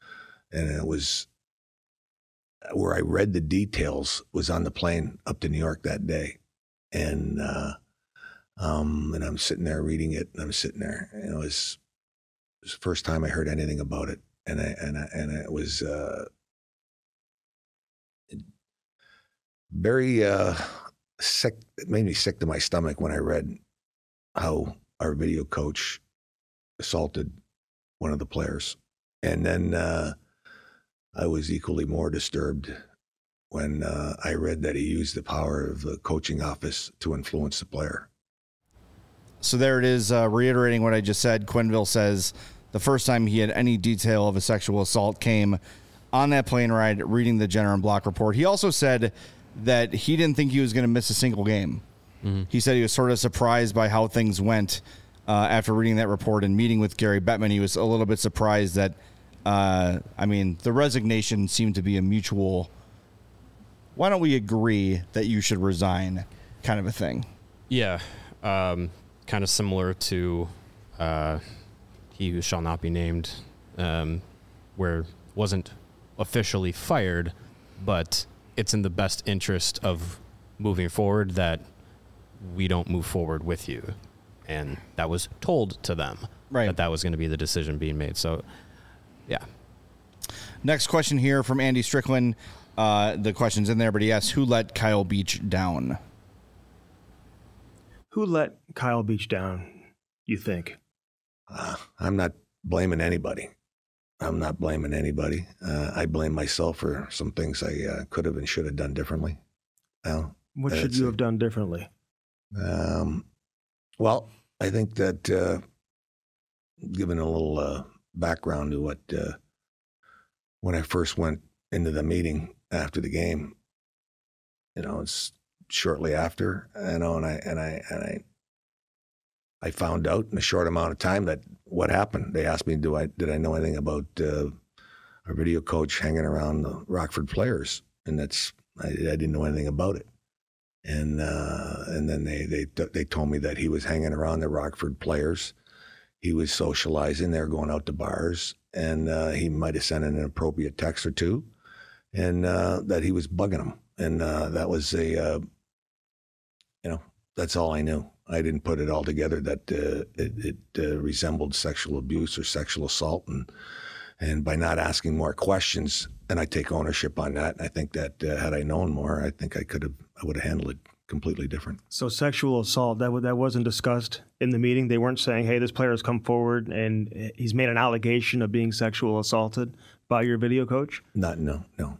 and it was where I read the details was on the plane up to New York that day, and uh, um, and I'm sitting there reading it, and I'm sitting there, and it was, it was the first time I heard anything about it, and I and I, and it was uh, very uh, sick. It made me sick to my stomach when I read how our video coach assaulted one of the players, and then. Uh, I was equally more disturbed when uh, I read that he used the power of the coaching office to influence the player. So there it is, uh, reiterating what I just said. Quenneville says the first time he had any detail of a sexual assault came on that plane ride reading the Jenner and Block report. He also said that he didn't think he was going to miss a single game. Mm-hmm. He said he was sort of surprised by how things went uh, after reading that report and meeting with Gary Bettman. He was a little bit surprised that Uh, I mean, the resignation seemed to be a mutual, why don't we agree that you should resign kind of a thing. Yeah. Um, kind of similar to uh, He Who Shall Not Be Named, um, where wasn't officially fired, but it's in the best interest of moving forward that we don't move forward with you. And that was told to them, right, that that was going to be the decision being made. So, yeah. Next question here from Andy Strickland. Uh, the question's in there, but he asks, who let Kyle Beach down? Who let Kyle Beach down, you think? Uh, I'm not blaming anybody. I'm not blaming anybody. Uh, I blame myself for some things I uh, could have and should have done differently. Well, what should you have done differently? Um, well, I think that uh, given a little... Uh, background to what uh, when I first went into the meeting after the game, you know, it's shortly after, you know, and I and I and I I found out in a short amount of time that what happened. They asked me, do I did I know anything about uh, our video coach hanging around the Rockford players, and that's I, I didn't know anything about it, and uh, and then they they they told me that he was hanging around the Rockford players. He was socializing. They were going out to bars, and uh, he might have sent an inappropriate text or two, and uh, that he was bugging them. And uh, that was a, uh, you know, that's all I knew. I didn't put it all together that uh, it, it uh, resembled sexual abuse or sexual assault. And and by not asking more questions, and I take ownership on that. I think that uh, had I known more, I think I could have, I would have handled it completely different. So sexual assault, that w- that wasn't discussed in the meeting? They weren't saying, hey, this player has come forward and he's made an allegation of being sexual assaulted by your video coach? Not, no, no.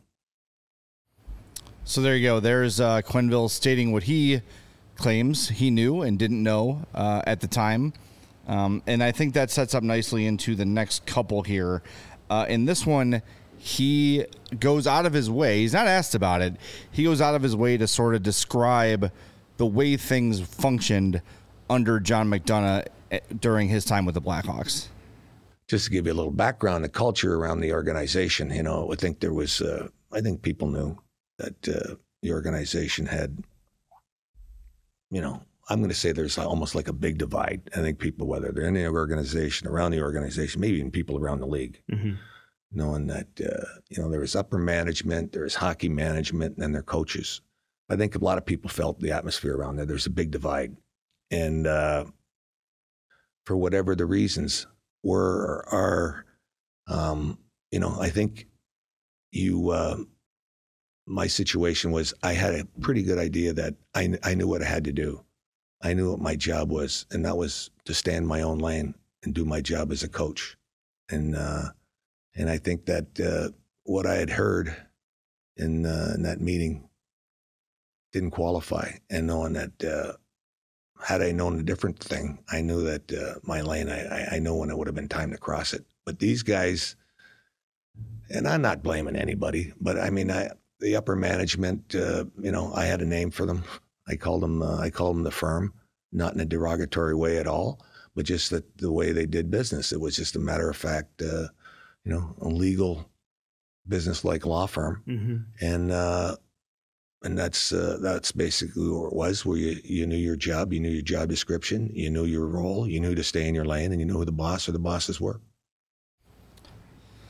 So there you go. There's uh, Quenneville stating what he claims he knew and didn't know uh, at the time. Um, and I think that sets up nicely into the next couple here. Uh, in this one, he goes out of his way. He's not asked about it. He goes out of his way to sort of describe the way things functioned under John McDonough during his time with the Blackhawks. Just to give you a little background, the culture around the organization, you know, I think there was, uh, I think people knew that uh, the organization had, you know, I'm going to say there's almost like a big divide. I think people, whether they're in the organization, around the organization, maybe even people around the league, mm-hmm. knowing that, uh, you know, there was upper management, there was hockey management, and then their coaches. I think a lot of people felt the atmosphere around there. There's a big divide. And uh, for whatever the reasons were or are, um, you know, I think you, uh, my situation was I had a pretty good idea that I, I knew what I had to do. I knew what my job was, and that was to stay in my own lane and do my job as a coach. And uh, and I think that uh, what I had heard in, uh, in that meeting didn't qualify. And knowing that uh, had I known a different thing, I knew that uh, my lane, I, I know when it would have been time to cross it. But these guys, and I'm not blaming anybody, but I mean, I, the upper management, uh, you know, I had a name for them. I called them, uh, I called them the firm, not in a derogatory way at all, but just that the way they did business. It was just a matter of fact, uh, you know, a legal business-like law firm. Mm-hmm. And, uh, and that's, uh, that's basically what it was, where you, you knew your job, you knew your job description, you knew your role, you knew to stay in your lane, and you knew who the boss or the bosses were.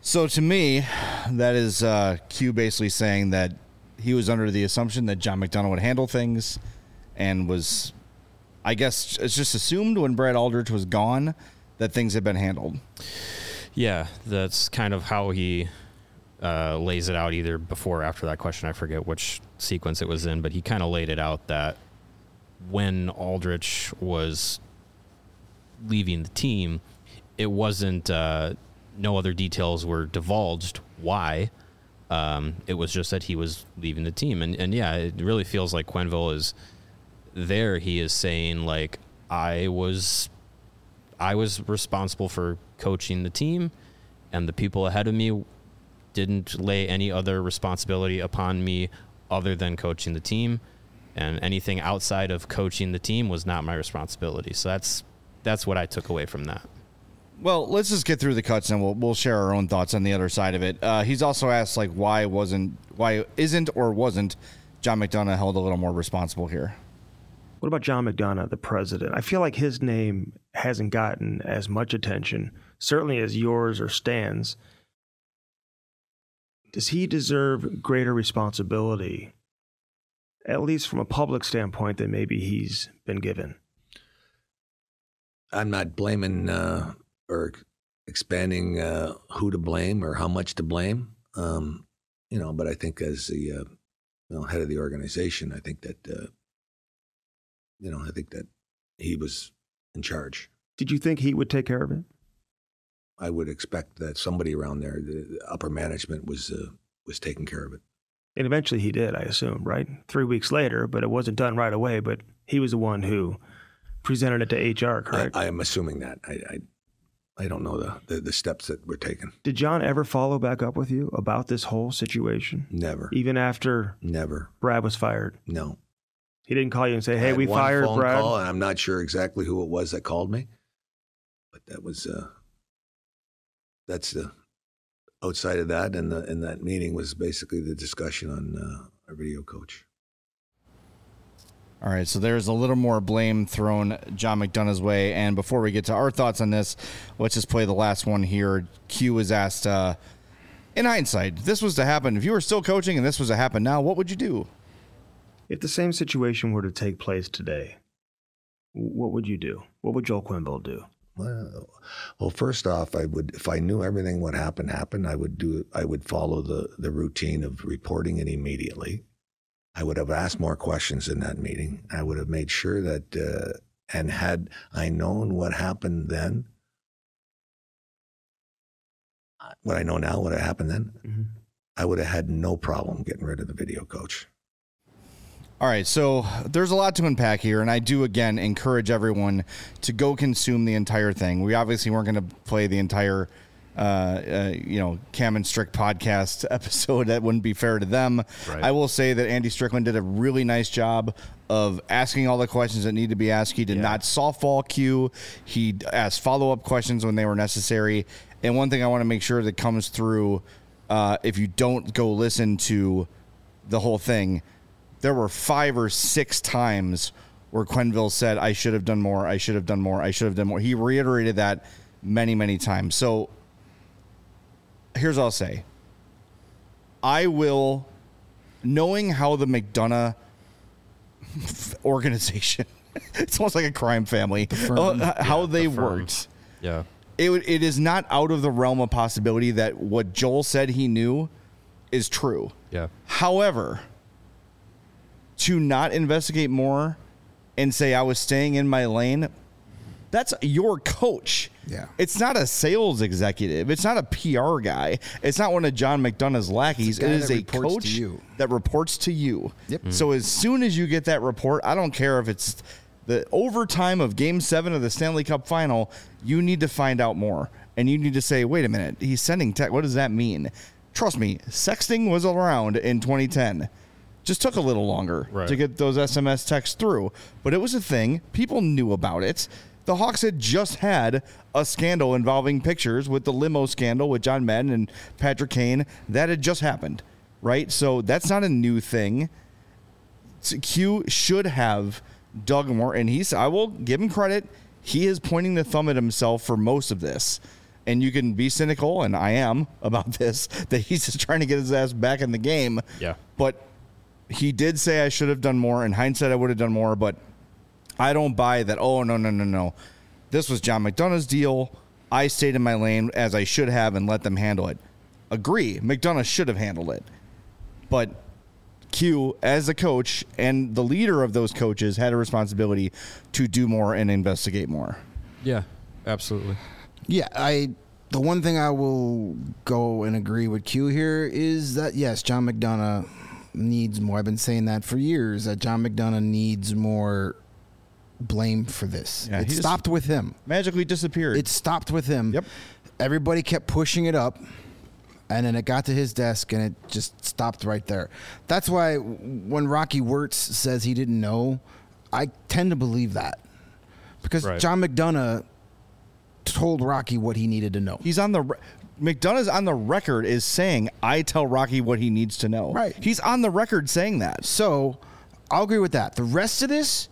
So to me, that is uh, Q basically saying that he was under the assumption that John McDonough would handle things, and was, I guess, it's just assumed when Brad Aldrich was gone that things had been handled. Yeah, that's kind of how he uh, lays it out, either before or after that question. I forget which sequence it was in, but he kind of laid it out that when Aldrich was leaving the team, it wasn't, uh, no other details were divulged why. Um, it was just that he was leaving the team. And, and yeah, it really feels like Quenneville is there. He is saying, like, I was, I was responsible for coaching the team, and the people ahead of me didn't lay any other responsibility upon me other than coaching the team, and anything outside of coaching the team was not my responsibility. So that's, that's what I took away from that. Well, let's just get through the cuts and we'll we'll share our own thoughts on the other side of it. Uh, he's also asked, like, why wasn't, why isn't or wasn't John McDonough held a little more responsible here? What about John McDonough, the president? I feel like his name hasn't gotten as much attention, certainly as yours or Stan's. Does he deserve greater responsibility, at least from a public standpoint, than maybe he's been given? I'm not blaming uh, or expanding uh, who to blame or how much to blame, um, you know. But I think as the uh, you know, head of the organization, I think that uh, you know, I think that he was in charge. Did you think he would take care of it? I would expect that somebody around there, the upper management, was uh, was taking care of it. And eventually he did, I assume, right? Three weeks later, but it wasn't done right away. But he was the one who presented it to H R, correct? I, I am assuming that. I, I I don't know the, the, the steps that were taken. Did John ever follow back up with you about this whole situation? Never. Even after Never. Brad was fired? No. He didn't call you and say, hey, I had we one fired phone Brad? Call, and I'm not sure exactly who it was that called me, but that was, uh, that's the, outside of that, and, the, and that meeting was basically the discussion on uh, our video coach. All right, so there's a little more blame thrown John McDonough's way. And before we get to our thoughts on this, let's just play the last one here. Q was asked, uh, in hindsight, if this was to happen, if you were still coaching and this was to happen now, what would you do? If the same situation were to take place today, what would you do? What would Joel Quenneville do? Well, well, first off, I would, if I knew everything what happened happened, I would do, I would follow the, the routine of reporting it immediately. I would have asked more questions in that meeting. I would have made sure that, uh, and had I known what happened then, what I know now, what happened then, mm-hmm. I would have had no problem getting rid of the video coach. All right, so there's a lot to unpack here, and I do, again, encourage everyone to go consume the entire thing. We obviously weren't going to play the entire Uh, uh, you know, Cam and Strick podcast episode. That wouldn't be fair to them. Right. I will say that Andy Strickland did a really nice job of asking all the questions that need to be asked. He did yeah. not softball Q. He asked follow-up questions when they were necessary. And one thing I want to make sure that comes through, uh, if you don't go listen to the whole thing, there were five or six times where Quenneville said, I should have done more, I should have done more, I should have done more. He reiterated that many, many times. So here's what I'll say. I will, knowing how the McDonough organization, it's almost like a crime family, the uh, how yeah, they the worked. Yeah. It, it is not out of the realm of possibility that what Joel said he knew is true. Yeah. However, to not investigate more and say I was staying in my lane, that's your coach. Yeah. It's not a sales executive. It's not a P R guy. It's not one of John McDonough's lackeys. It is a coach that reports to you. Yep. Mm-hmm. So as soon as you get that report, I don't care if it's the overtime of game seven of the Stanley Cup final, you need to find out more. And you need to say, wait a minute, he's sending text. What does that mean? Trust me, sexting was around in twenty ten. Just took a little longer right. to get those S M S texts through. But it was a thing. People knew about it. The Hawks had just had a scandal involving pictures with the limo scandal with John Madden and Patrick Kane. That had just happened, right? So that's not a new thing. Q should have dug more, and he's, I will give him credit, he is pointing the thumb at himself for most of this. and you can be cynical, and I am about this, that he's just trying to get his ass back in the game. Yeah. But he did say I should have done more. In hindsight, I would have done more, but I don't buy that. Oh, no, no, no, no. This was John McDonough's deal. I stayed in my lane as I should have and let them handle it. Agree. McDonough should have handled it. But Q, as a coach and the leader of those coaches, had a responsibility to do more and investigate more. Yeah, absolutely. Yeah, I. The one thing I will go and agree with Q here is that, yes, John McDonough needs more. I've been saying that for years, that John McDonough needs more blame for this. Yeah, it he stopped with him. Magically disappeared. It stopped with him. Yep. Everybody kept pushing it up, and then it got to his desk, and it just stopped right there. That's why when Rocky Wirtz says he didn't know, I tend to believe that. Because Right. John McDonough told Rocky what he needed to know. He's on the re- McDonough's on the record is saying, I tell Rocky what he needs to know. Right. He's on the record saying that. So I'll agree with that. The rest of this,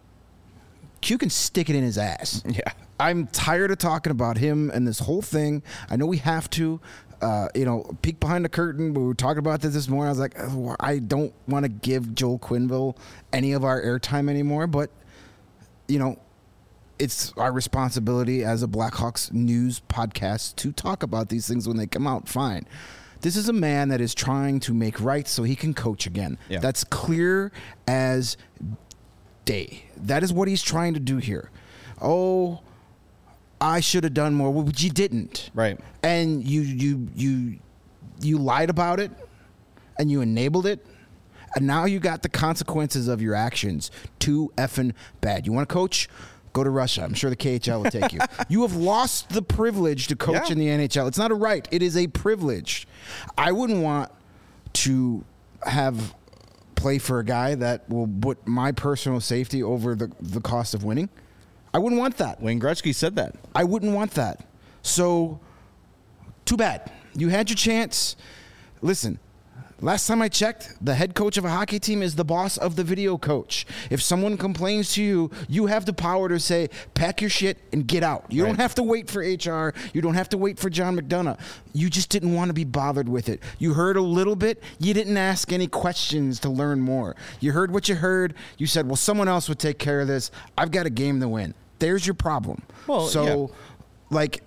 Q can stick it in his ass. Yeah. I'm tired of talking about him and this whole thing. I know we have to. Uh, you know, peek behind the curtain. We were talking about this this morning. I was like, oh, I don't want to give Joel Quenneville any of our airtime anymore. But, you know, it's our responsibility as a Blackhawks news podcast to talk about these things when they come out. Fine. This is a man that is trying to make right so he can coach again. Yeah. That's clear as day. That is what he's trying to do here. Oh, I should have done more. Well, but you didn't. Right. And you you you you lied about it, and you enabled it, and now you got the consequences of your actions. Too effing bad. You want to coach? Go to Russia. I'm sure the K H L will take you. You have lost the privilege to coach Yeah. in the N H L. It's not a right. It is a privilege. I wouldn't want to have play for a guy that will put my personal safety over the, the cost of winning. I wouldn't want that. Wayne Gretzky said that. I wouldn't want that. So, too bad. You had your chance. Listen, last time I checked, the head coach of a hockey team is the boss of the video coach. If someone complains to you, you have the power to say, pack your shit and get out. You Right. don't have to wait for H R. You don't have to wait for John McDonough. You just didn't want to be bothered with it. You heard a little bit. You didn't ask any questions to learn more. You heard what you heard. You said, well, someone else would take care of this. I've got a game to win. There's your problem. Well, so, yeah. like,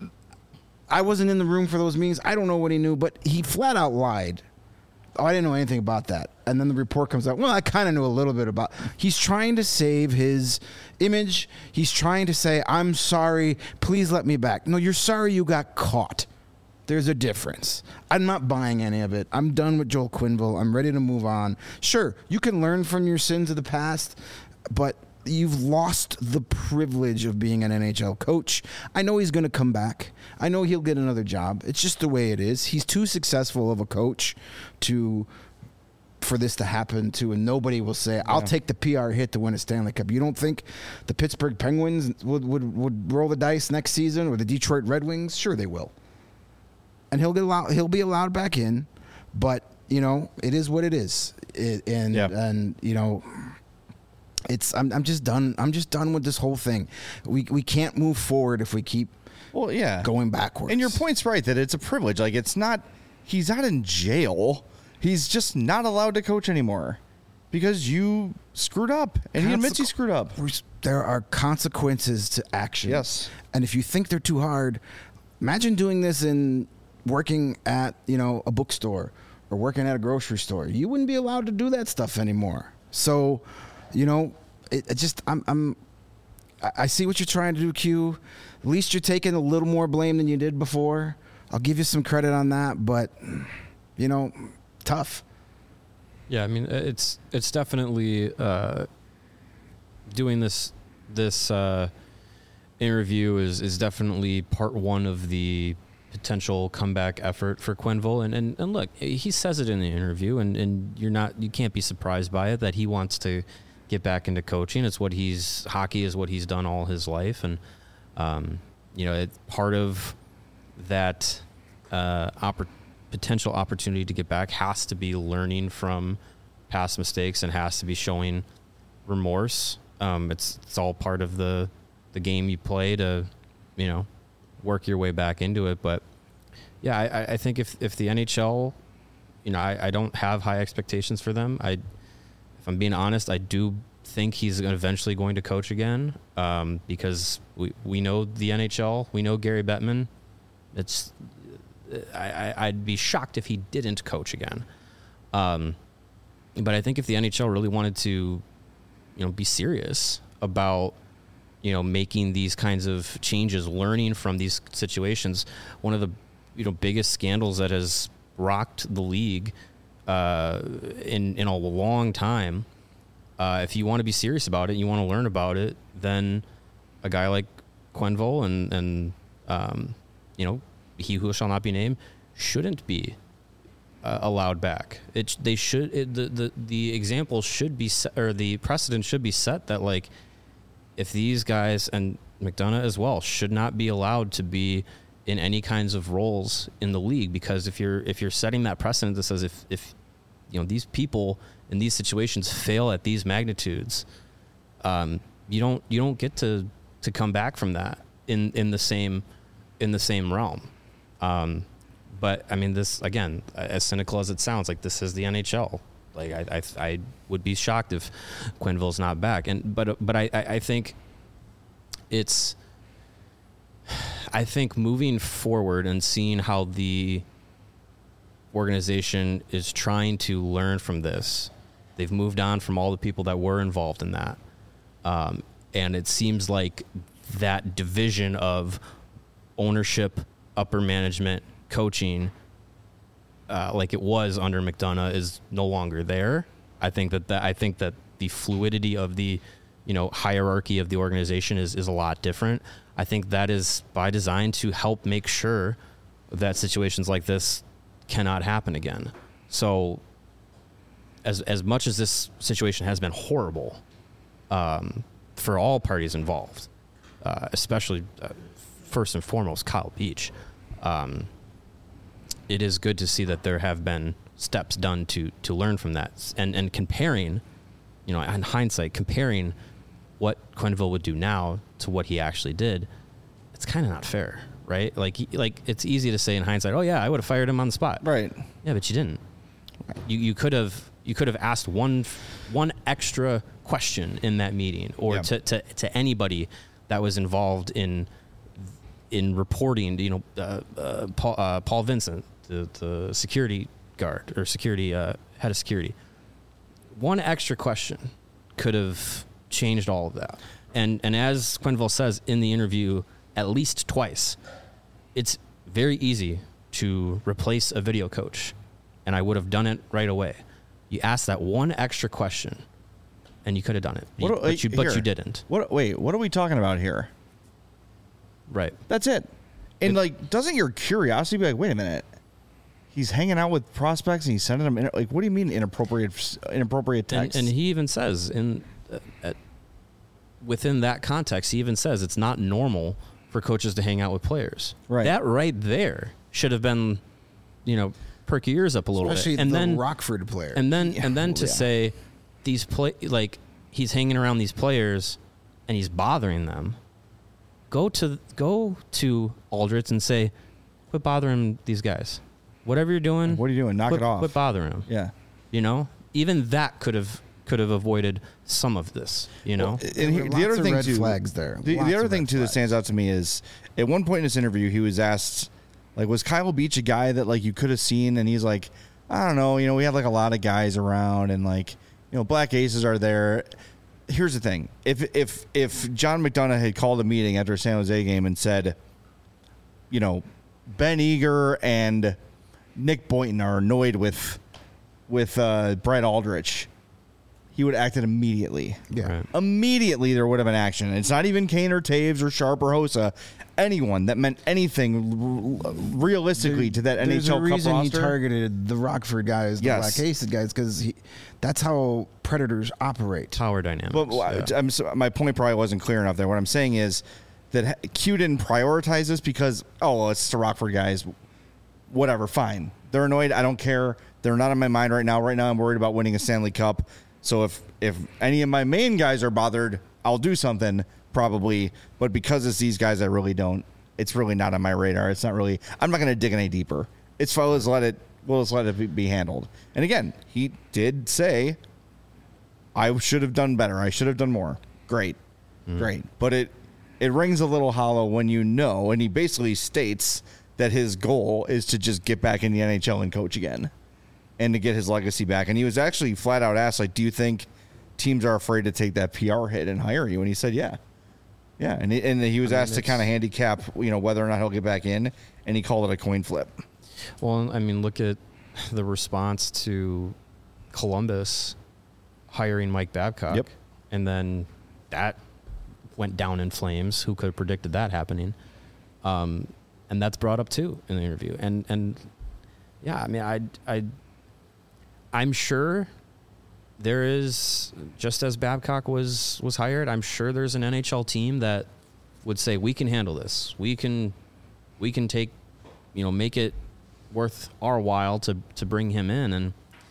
I wasn't in the room for those meetings. I don't know what he knew, but he flat out lied. Oh, I didn't know anything about that. And then the report comes out. Well, I kind of knew a little bit about. He's trying to save his image. He's trying to say, I'm sorry. Please let me back. No, you're sorry you got caught. There's a difference. I'm not buying any of it. I'm done with Joel Quenneville. I'm ready to move on. Sure, you can learn from your sins of the past, but you've lost the privilege of being an N H L coach. I know he's going to come back. I know he'll get another job. It's just the way it is. He's too successful of a coach to for this to happen to, and nobody will say, I'll take the P R hit to win a Stanley Cup. You don't think the Pittsburgh Penguins would, would, would roll the dice next season, or the Detroit Red Wings? Sure they will. And he'll get allowed, he'll be allowed back in, but, you know, it is what it is. It, and, Yeah. and, you know, It's I'm I'm just done. I'm just done with this whole thing. We we can't move forward if we keep Well, yeah. going backwards. And your point's right that it's a privilege. Like, it's not, he's not in jail. He's just not allowed to coach anymore because you screwed up. And he admits he Consequ- screwed up. There are consequences to action. Yes. And if you think they're too hard, imagine doing this in working at, you know, a bookstore or working at a grocery store. You wouldn't be allowed to do that stuff anymore. So, you know, it, it just I'm I'm I I see what you're trying to do, Q. At least you're taking a little more blame than you did before. I'll give you some credit on that, but you know, tough. Yeah, I mean, it's it's definitely uh, doing this this uh, interview is is definitely part one of the potential comeback effort for Quenneville. And, and and look, he says it in the interview, and, and you're not you can't be surprised by it that he wants to get back into coaching. It's what he's hockey is what he's done all his life, and um, you know, it, part of that uh, oppor- potential opportunity to get back has to be learning from past mistakes and has to be showing remorse. Um, it's it's all part of the the game you play to, you know, work your way back into it. But yeah, I, I think if, if the N H L, you know, I, I don't have high expectations for them. I, if I'm being honest, I do think he's eventually going to coach again, um, because we, we know the N H L, we know Gary Bettman. It's, I, I, I'd be shocked if he didn't coach again. Um, but I think if the N H L really wanted to, you know, be serious about, you know, making these kinds of changes, learning from these situations, one of the, you know, biggest scandals that has rocked the league uh, in in a long time. Uh, if you want to be serious about it, you want to learn about it, then a guy like Quenneville and and um, you know, he who shall not be named shouldn't be uh, allowed back. It they should it, the the the example should be set, or the precedent should be set that, like, if these guys and McDonough as well should not be allowed to be in any kinds of roles in the league, because if you're if you're setting that precedent that says if if you know these people in these situations fail at these magnitudes, um, you don't you don't get to to come back from that in in the same in the same realm. Um, but I mean, this again, as cynical as it sounds, like, this is the N H L. Like, I I, I would be shocked if Quenneville's not back. And but but I I think it's. I think moving forward and seeing how the organization is trying to learn from this, they've moved on from all the people that were involved in that. Um, and it seems like that division of ownership, upper management, coaching, uh, like it was under McDonough, is no longer there. I think that, that I think that the fluidity of the, you know, hierarchy of the organization is, is a lot different. I think that is by design to help make sure that situations like this cannot happen again. So as as much as this situation has been horrible um, for all parties involved, uh, especially uh, first and foremost Kyle Beach, um, it is good to see that there have been steps done to to learn from that, and and comparing, you know, in hindsight, comparing what Quenneville would do now to what he actually did, it's kind of not fair, right? Like, he, like it's easy to say in hindsight, oh yeah, I would have fired him on the spot, right? Yeah, but you didn't. You you could have you could have asked one one extra question in that meeting, or yeah. to, to to anybody that was involved in in reporting. You know, uh, uh, Paul uh, Paul Vincent, the the security guard or security uh, head of security. One extra question could have changed all of that. And and as Quenneville says in the interview at least twice, it's very easy to replace a video coach, and I would have done it right away. You ask that one extra question, and you could have done it, What, but you but here, you didn't. What? Wait, what are we talking about here? Right. That's it. And it, like, doesn't your curiosity be like, wait a minute, he's hanging out with prospects and he's sending them in, like, what do you mean inappropriate inappropriate text? And, and he even says in uh, at, within that context, he even says it's not normal for coaches to hang out with players. Right. That right there should have been, you know, perk your ears up a little Especially bit. And the then Rockford player. And then Yeah. and then to Yeah. say these play like he's hanging around these players and he's bothering them. Go to go to Aldrich and say, quit bothering these guys. Whatever you're doing, what are you doing? Knock quit, it off. Quit bothering them. Yeah. You know, even that could have could have avoided some of this. You know, Well, and he, the other thing too, flags there. The, Lots the other of thing red too that flags. stands out to me is at one point in this interview, he was asked, like, was Kyle Beach a guy that like you could have seen? And he's like, I don't know. You know, we had like a lot of guys around, and like, you know, Black Aces are there. Here's the thing: if if if John McDonough had called a meeting after a San Jose game and said, you know, Ben Eager and Nick Boynton are annoyed with with uh, Brett Aldrich, he would have acted immediately. Yeah. Right. Immediately there would have been action. It's not even Kane or Taves or Sharp or Hossa. Anyone that meant anything r- realistically to that N H L There's a Cup reason roster. he targeted the Rockford guys, the Yes. Black Aces guys, because that's how Predators operate. Power dynamics. But yeah. I'm, so- my point probably wasn't clear enough there. What I'm saying is that Q didn't prioritize this because, oh, well, it's the Rockford guys. Whatever, fine. They're annoyed. I don't care. They're not on my mind right now. Right now I'm worried about winning a Stanley Cup. So if, if any of my main guys are bothered, I'll do something probably. But because it's these guys, I really don't it's really not on my radar. It's not really. I'm not going to dig any deeper. It's fine. Let's let it. We'll just let it be handled. And again, he did say, "I should have done better. I should have done more." Great, mm. great. But it it rings a little hollow when you know, and he basically states that his goal is to just get back in the N H L and coach again, and to get his legacy back. And he was actually flat out asked, like, "Do you think teams are afraid to take that P R hit and hire you?" And he said, "Yeah." Yeah, and he, and he was I mean, asked to kind of handicap, you know, whether or not he'll get back in, and he called it a coin flip. Well, I mean, look at the response to Columbus hiring Mike Babcock, yep. and then that went down in flames. Who could have predicted that happening? Um, and that's brought up too in the interview. And and yeah, I mean, I I I'm sure. There is, just as Babcock was was hired, I'm sure there's an N H L team that would say, we can handle this. We can we can take, you know, make it worth our while to, to bring him in. And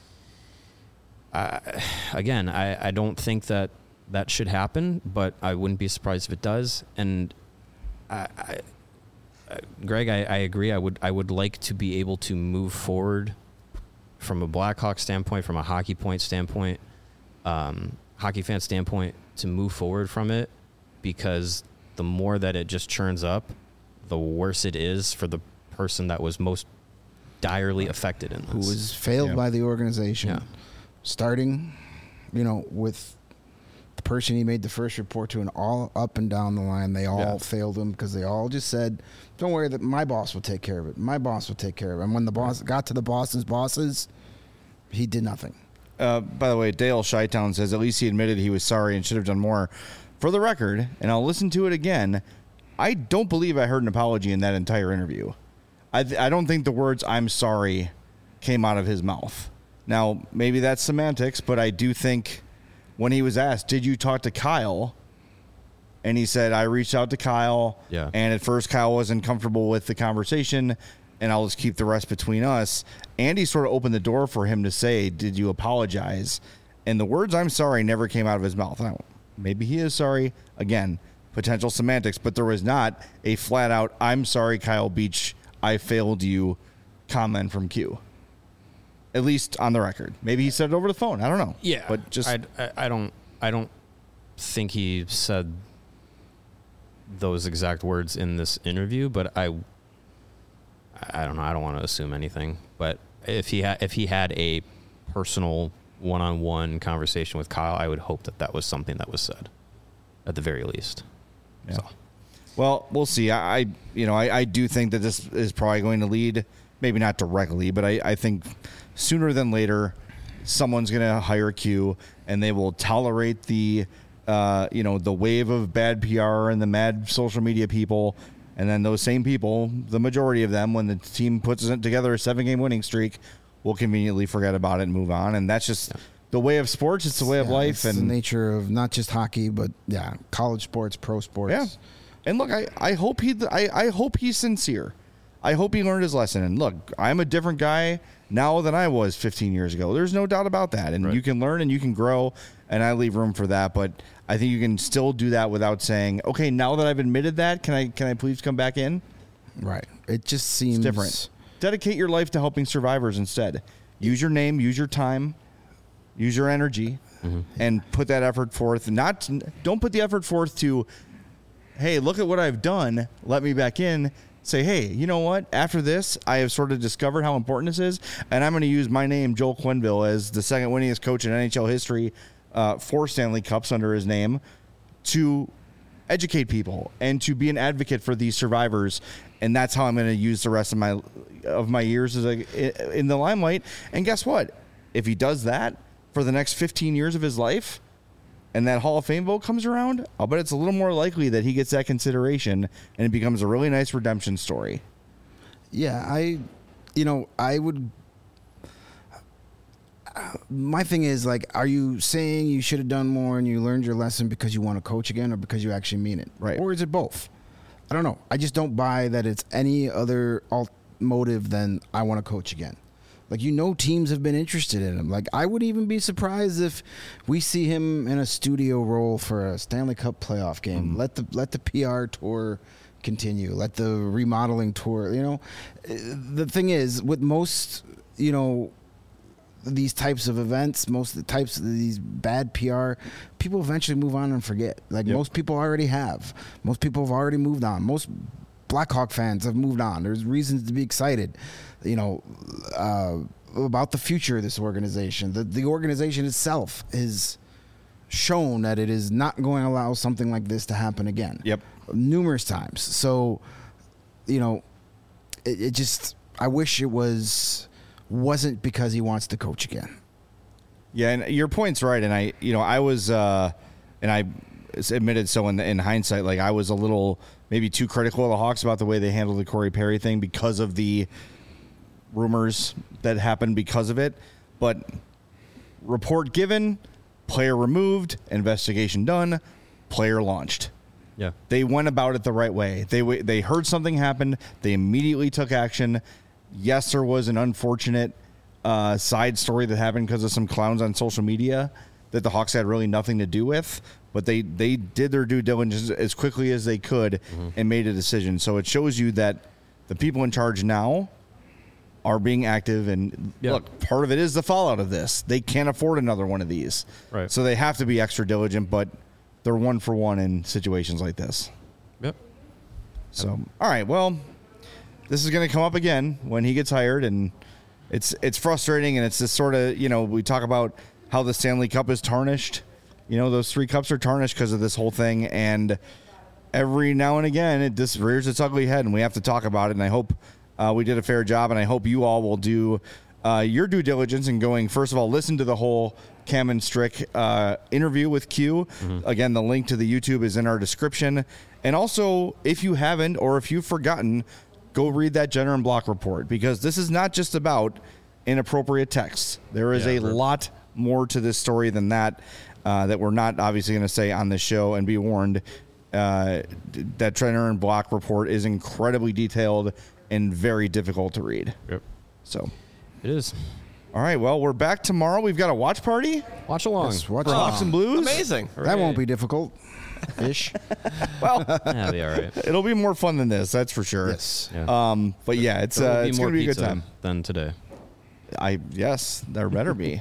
I, again, I, I don't think that that should happen, but I wouldn't be surprised if it does. And I, I, I, Greg, I, I agree. I would I would like to be able to move forward from a Blackhawk standpoint, from a hockey point standpoint, um, hockey fan standpoint, to move forward from it, because the more that it just churns up, the worse it is for the person that was most direly affected in this. Who was failed yeah. by the organization. Yeah. Starting, you know, with the person he made the first report to, and all up and down the line, they all Yeah. failed him because they all just said, don't worry, that my boss will take care of it. My boss will take care of it. And when the boss got to the boss's bosses, he did nothing. Uh, by the way, Dale Shytown says at least he admitted he was sorry and should have done more. For the record, and I'll listen to it again, I don't believe I heard an apology in that entire interview. I th- I don't think the words "I'm sorry" came out of his mouth. Now, maybe that's semantics, but I do think when he was asked, did you talk to Kyle? And he said, I reached out to Kyle, yeah. and at first Kyle wasn't comfortable with the conversation, and I'll just keep the rest between us. Andy sort of opened the door for him to say, did you apologize? And the words "I'm sorry" never came out of his mouth. Now, maybe he is sorry. Again, potential semantics, but there was not a flat-out, I'm sorry, Kyle Beach, I failed you comment from Q. At least on the record. Maybe he said it over the phone. I don't know. Yeah, but just I, I, I don't I don't think he said those exact words in this interview, but I I don't know. I don't want to assume anything. But if he had if he had a personal one-on-one conversation with Kyle, I would hope that that was something that was said, at the very least. Yeah. So. Well, we'll see. I, I you know, I, I do think that this is probably going to lead, maybe not directly, but I, I think sooner than later, someone's going to hire Q, and they will tolerate the, uh, you know, the wave of bad P R and the mad social media people, and then those same people, the majority of them, when the team puts together a seven-game winning streak, will conveniently forget about it and move on, and that's just. Yeah. The way of sports, it's the way of yeah, life, it's and the nature of not just hockey, but yeah, college sports, pro sports. Yeah, and look, I, I hope he I, I hope he's sincere. I hope he learned his lesson. And look, I'm a different guy now than I was fifteen years ago. There's no doubt about that. And right. you can learn and you can grow, and I leave room for that. But I think you can still do that without saying, okay, now that I've admitted that, can I can I please come back in? Right. It just seems it's different. Dedicate your life to helping survivors instead. Use your name, use your time. Use your energy, mm-hmm. and put that effort forth. Not don't put the effort forth to, hey, look at what I've done. Let me back in. Say, hey, you know what? After this, I have sort of discovered how important this is, and I'm going to use my name, Joel Quenneville, as the second winningest coach in N H L history, uh, four Stanley Cups under his name, to educate people and to be an advocate for these survivors. And that's how I'm going to use the rest of my of my years as a, in the limelight. And guess what? If he does that for the next fifteen years of his life, and that Hall of Fame vote comes around, I'll bet it's a little more likely that he gets that consideration, and it becomes a really nice redemption story. Yeah, I, you know, I would. Uh, my thing is, like, are you saying you should have done more and you learned your lesson because you want to coach again, or because you actually mean it? Right. Or is it both? I don't know. I just don't buy that it's any other alt motive than I want to coach again. Like, you know, teams have been interested in him. Like, I would even be surprised if we see him in a studio role for a Stanley Cup playoff game. Mm. Let the let the P R tour continue. Let the remodeling tour, you know. The thing is, with most, you know, these types of events, most of the types of these bad P R, people eventually move on and forget. Like Yep. most people already have. Most people have already moved on. Most Blackhawk fans have moved on. There's reasons to be excited, you know, uh, about the future of this organization. The, the organization itself is shown that it is not going to allow something like this to happen again. Yep. Numerous times. So, you know, it, it just, I wish it was, wasn't because he wants to coach again. Yeah, and your point's right. And I, you know, I was, uh, and I admitted so in, in hindsight, like I was a little maybe too critical of the Hawks about the way they handled the Corey Perry thing because of the rumors that happened because of it. But report given, player removed, investigation done, player launched. Yeah. They went about it the right way. They they heard something happen. They immediately took action. Yes, there was an unfortunate uh, side story that happened because of some clowns on social media that the Hawks had really nothing to do with, but they, they did their due diligence as quickly as they could mm-hmm. and made a decision. So it shows you that the people in charge now are being active, and yeah. look, part of it is the fallout of this. They can't afford another one of these. Right. So they have to be extra diligent, but they're one for one in situations like this. Yep. So, all right, well, this is going to come up again when he gets hired, and it's it's frustrating, and it's this sort of, you know, we talk about how the Stanley Cup is tarnished. You know, those three cups are tarnished because of this whole thing, and every now and again it just rears its ugly head, and we have to talk about it, and I hope uh, we did a fair job, and I hope you all will do uh, your due diligence in going, first of all, listen to the whole Cam and Strick uh, interview with Q. Mm-hmm. Again, the link to the YouTube is in our description. And also, if you haven't or if you've forgotten, go read that Jenner and Block report, because this is not just about inappropriate texts. There is Yeah, a right. lot more to this story than that, uh, that we're not obviously going to say on this show, and be warned, uh, that Jenner and Block report is incredibly detailed and very difficult to read. Yep. So it is. All right, well, we're back tomorrow. We've got a watch party. Watch along. Yes, watch For along. Hawks and Blues. Amazing. That won't be difficult. Ish. Well, Yeah, be all right. it'll be more fun than this, that's for sure. Yes. Yeah. Um, but yeah, it's There will uh, be it's more gonna be a good pizza time. than today. I yes, there better be.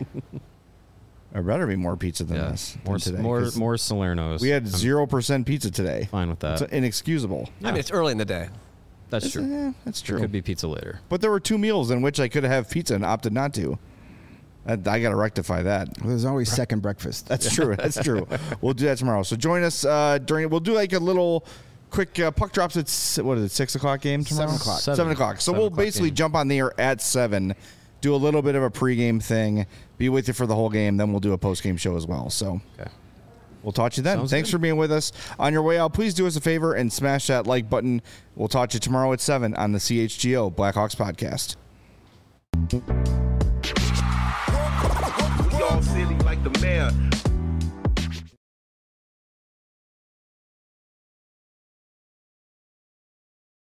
There better be more pizza than Yeah. this. More than today, more 'cause more Salernos. We had I'm zero percent pizza today. fine with that. It's inexcusable. I mean, it's early in the day. That's It's- true. yeah, that's true. Could be pizza later. But there were two meals in which I could have pizza and opted not to. I, I got to rectify that. Well, there's always second breakfast. That's true. That's true. We'll do that tomorrow. So join us uh, during. We'll do like a little quick uh, puck drops at s- what is it? Six o'clock game tomorrow. Seven o'clock. Seven, Seven. o'clock. So Seven we'll o'clock basically game. jump on the air at seven. Do a little bit of a pregame thing. Be with you for the whole game. Then we'll do a postgame show as well. So Okay. we'll talk to you then. Sounds Thanks good. for being with us. On your way out, please do us a favor and smash that like button. We'll talk to you tomorrow at seven on the C H G O Blackhawks podcast. We all silly like the mayor.